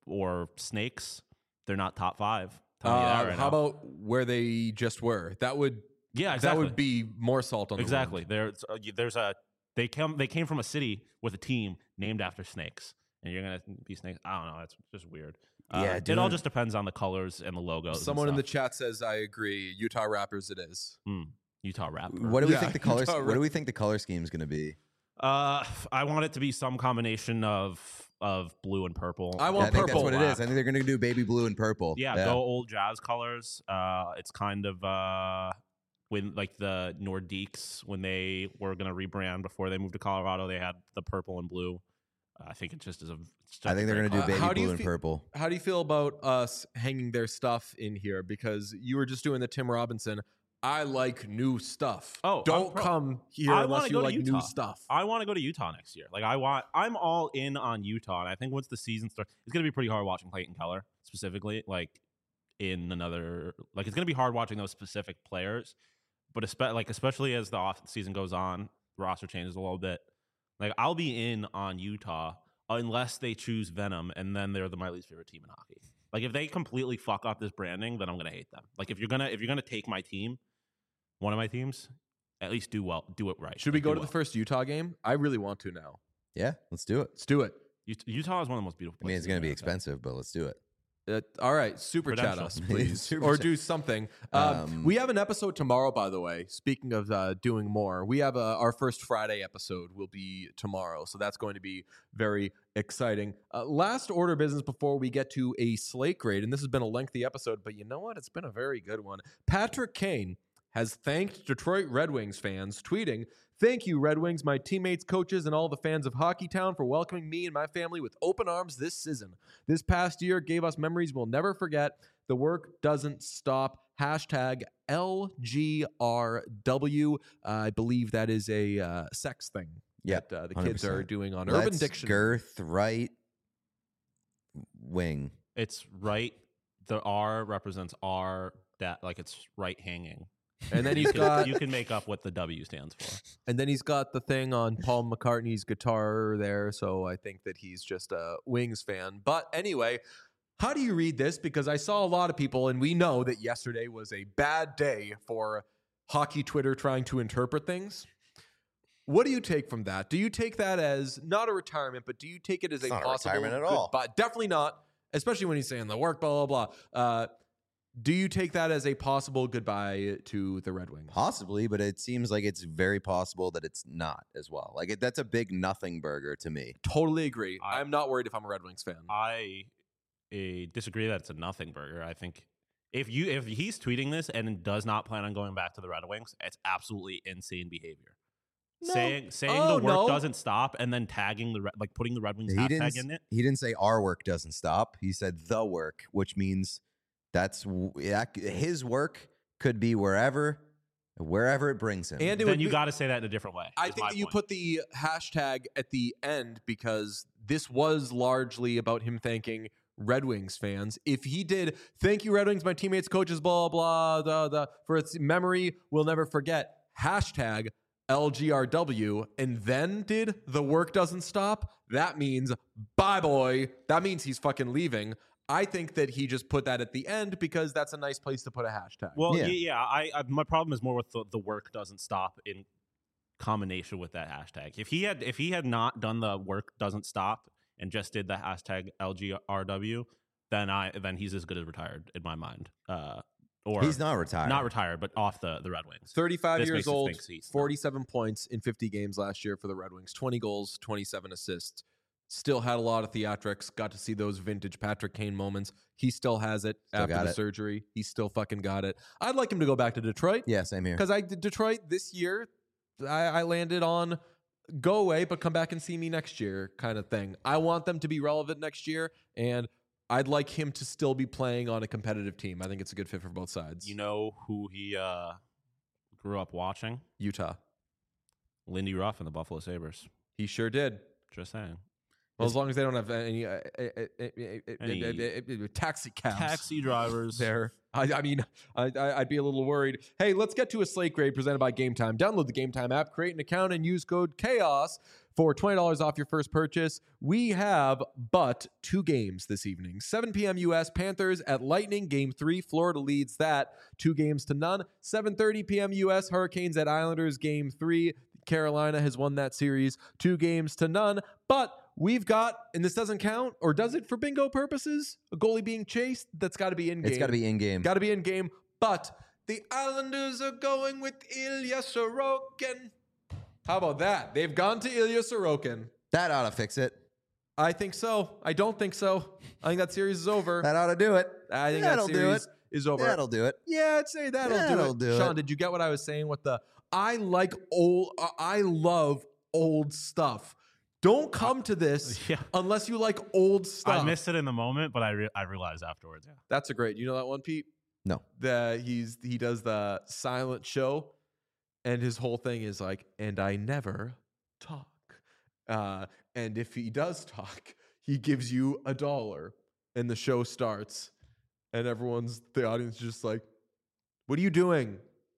or snakes, they're not top five. Tell me that Uh, right how now. about where they just were? That would yeah, that exactly. would be more salt on the exactly. wound. There's uh, y- there's a they come they came from a city with a team named after snakes, and you're gonna be snakes. I don't know. It's just weird. Uh, Yeah, it all doing- just depends on the colors and the logos. and Someone in the stuff. chat says I agree. Utah Raptors, it is. Hmm. Utah Raptor. What do we Yeah, think the color? Utah What do we think the color scheme is going to be? Uh, I want it to be some combination of of blue and purple. I Yeah, want I think purple. that's what it is. I think they're going to do baby blue and purple. Yeah, go old Jazz colors. Uh, it's kind of uh, when like the Nordiques when they were gonna rebrand before they moved to Colorado, they had the purple and blue. I think it just is a. It's just I think a they're great going to do Uh, color. how baby do you blue and feel- purple. How do you feel about us hanging their stuff in here? Because you were just doing the Tim Robinson. I like new stuff. Oh, don't I'm pro- come here I unless wanna you go to like new Utah. stuff. I want to go to Utah next year. Like I want, I'm all in on Utah, and I think once the season starts, it's gonna be pretty hard watching Clayton Keller specifically. Like in another, like it's gonna be hard watching those specific players, but espe- like especially as the off season goes on, the roster changes a little bit. Like I'll be in on Utah unless they choose Venom, and then they're the my least favorite team in hockey. Like if they completely fuck up this branding, then I'm gonna hate them. Like if you're gonna if you're gonna take my team, one of my teams, at least do well, do it right. Should we Like, go do to the well. first Utah game? I really want to now. Yeah, let's do it. Let's do it. Ut- Utah is one of the most beautiful I mean, places. it's going in to be America. expensive, but let's do it. Uh, all right, super chat Credential. us, please, Super or chat. do something. Um, Um, we have an episode tomorrow, by the way. Speaking of uh, doing more, we have a, our first Friday episode will be tomorrow, so that's going to be very exciting. Uh, last order of business before we get to a slate grade, and this has been a lengthy episode, but you know what? It's been a very good one. Patrick Kane has thanked Detroit Red Wings fans, tweeting, "Thank you, Red Wings, my teammates, coaches, and all the fans of Hockeytown for welcoming me and my family with open arms this season. This past year gave us memories we'll never forget. The work doesn't stop. Hashtag L G R W. Uh, I believe that is a uh, sex thing Yep, that uh, the one hundred kids are percent. doing on Let's Urban Dictionary. girth right wing. It's right. The R represents R that like it's right hanging. And then You he's can, got you can make up what the W stands for. and then he's got the thing on Paul McCartney's guitar there, so I think that he's just a Wings fan. But anyway, how do you read this? Because I saw a lot of people, and we know that yesterday was a bad day for hockey Twitter trying to interpret things. What do you take from that? Do you take that as not a retirement, but do you take it as It's a not a possible retirement at all. goodbye? Definitely not, especially when he's saying the work, blah, blah, blah. Uh, do you take that as a possible goodbye to the Red Wings? Possibly, but it seems like it's very possible that it's not as well. Like it, that's a big nothing burger to me. Totally agree. I- I'm not worried if I'm a Red Wings fan. I uh, disagree that it's a nothing burger. I think if you if he's tweeting this and does not plan on going back to the Red Wings, it's absolutely insane behavior. No. Saying saying Oh, the work no. doesn't stop and then tagging the Re- like putting the Red Wings He didn't. hashtag in it. He didn't say our work doesn't stop. He said the work, which means that's w- that- his work could be wherever, wherever it brings him. And it Then would you be- got to say that in a different way. I is think my that you point. put the hashtag at the end because this was largely about him thanking Red Wings fans. If he did, thank you, Red Wings, my teammates, coaches, blah, blah, blah, blah, for its memory, we'll never forget, hashtag L G R W, and then did the work doesn't stop, that means bye, boy. That means he's fucking leaving. I think that he just put that at the end because that's a nice place to put a hashtag. Well, Yeah. yeah, yeah. I, I my problem is more with the, the work doesn't stop in combination with that hashtag. If he had if he had not done the work doesn't stop and just did the hashtag L G R W, then I then he's as good as retired in my mind. Uh, or He's not retired. not retired, but off the, the Red Wings. thirty-five This years makes us old, think he's not. forty-seven points in fifty games last year for the Red Wings, twenty goals, twenty-seven assists. Still had a lot of theatrics. Got to see those vintage Patrick Kane moments. He still has it Still after got the it. surgery. He still fucking got it. I'd like him to go back to Detroit Yeah, same here. because I did Detroit this year. I, I landed on go away, but come back and see me next year kind of thing. I want them to be relevant next year, and I'd like him to still be playing on a competitive team. I think it's a good fit for both sides. You know who he uh, grew up watching? Utah. Lindy Ruff and the Buffalo Sabres. He sure did. Just saying. Well, as long as they don't have any uh, uh, uh, uh, uh, Any uh, uh, uh, taxi cabs. Taxi drivers. There. I, I mean, I, I- I'd be a little worried. Hey, let's get to a slate grade presented by Game Time. Download the Game Time app, create an account, and use code CHAOS for twenty dollars off your first purchase. We have but two games this evening. seven p.m. U S, Panthers at Lightning, Game three. Florida leads that two games to none. seven thirty p.m. U S, Hurricanes at Islanders, Game three. Carolina has won that series two games to none. But we've got, and this doesn't count, or does it for bingo purposes? A goalie being chased? That's got to be in game. It's got to be in game. Got to be in game. But the Islanders are going with Ilya Sorokin. How about that? They've gone to Ilya Sorokin. That ought to fix it. I think so. I don't think so. I think that series is over. That ought to do it. I think That'll that do series it. is over. That'll do it. Yeah, I'd say that'll, That'll do it. do it. Sean, did you get what I was saying with the I like old uh, I love old stuff. Don't come to this Yeah. unless you like old stuff. I missed it in the moment, but I re- I realized afterwards. Yeah. That's a great. You know that one, Pete? No. That he's he does the silent show, and his whole thing is like, and I never talk. Uh, and if he does talk, he gives you a dollar, and the show starts, and everyone's the audience is just like, "What are you doing?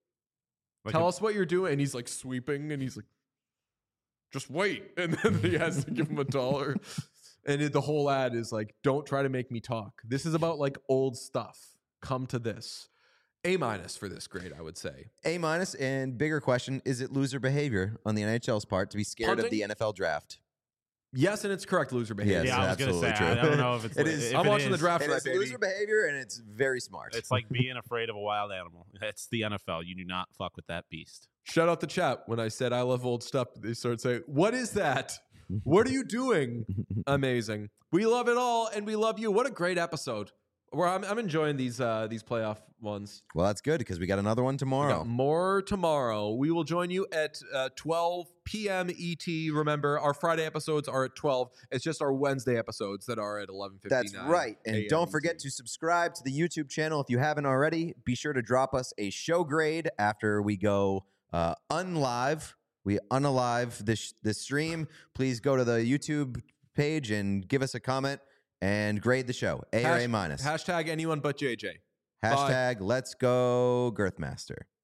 Like Tell a- us what you're doing." And he's like sweeping, and he's like, "Just wait," and then he has to give him a dollar. And it, the whole ad is like, "Don't try to make me talk. This is about like old stuff. Come to this." A minus for this grade, I would say. A minus. And bigger question: is it loser behavior on the N H L's part to be scared Punting? of the N F L draft? Yes, and it's correct loser behavior. Yes, yeah, I was gonna say. absolutely I, true. I don't know if it's. It li- is- if I'm it watching the is. draft It right, is baby. loser behavior, and it's very smart. It's like being afraid of a wild animal. It's the N F L. You do not fuck with that beast. Shout out the chat when I said I love old stuff. They started saying, "What is that? What are you doing?" Amazing. We love it all, and we love you. What a great episode. Where I'm, I'm enjoying these uh, these playoff ones. Well, that's good because we got another one We tomorrow. got more tomorrow. We will join you at uh, twelve p.m. E T. Remember, our Friday episodes are at twelve. It's just our Wednesday episodes that are at eleven fifty-nine. That's right. And A M don't E forget T. to subscribe to the YouTube channel if you haven't already. Be sure to drop us a show grade after we go uh, unlive. We unalive this this stream. Please go to the YouTube page and give us a comment and grade the show. A or Hash- A minus. Hashtag anyone but J J. Hashtag let's go Girthmaster.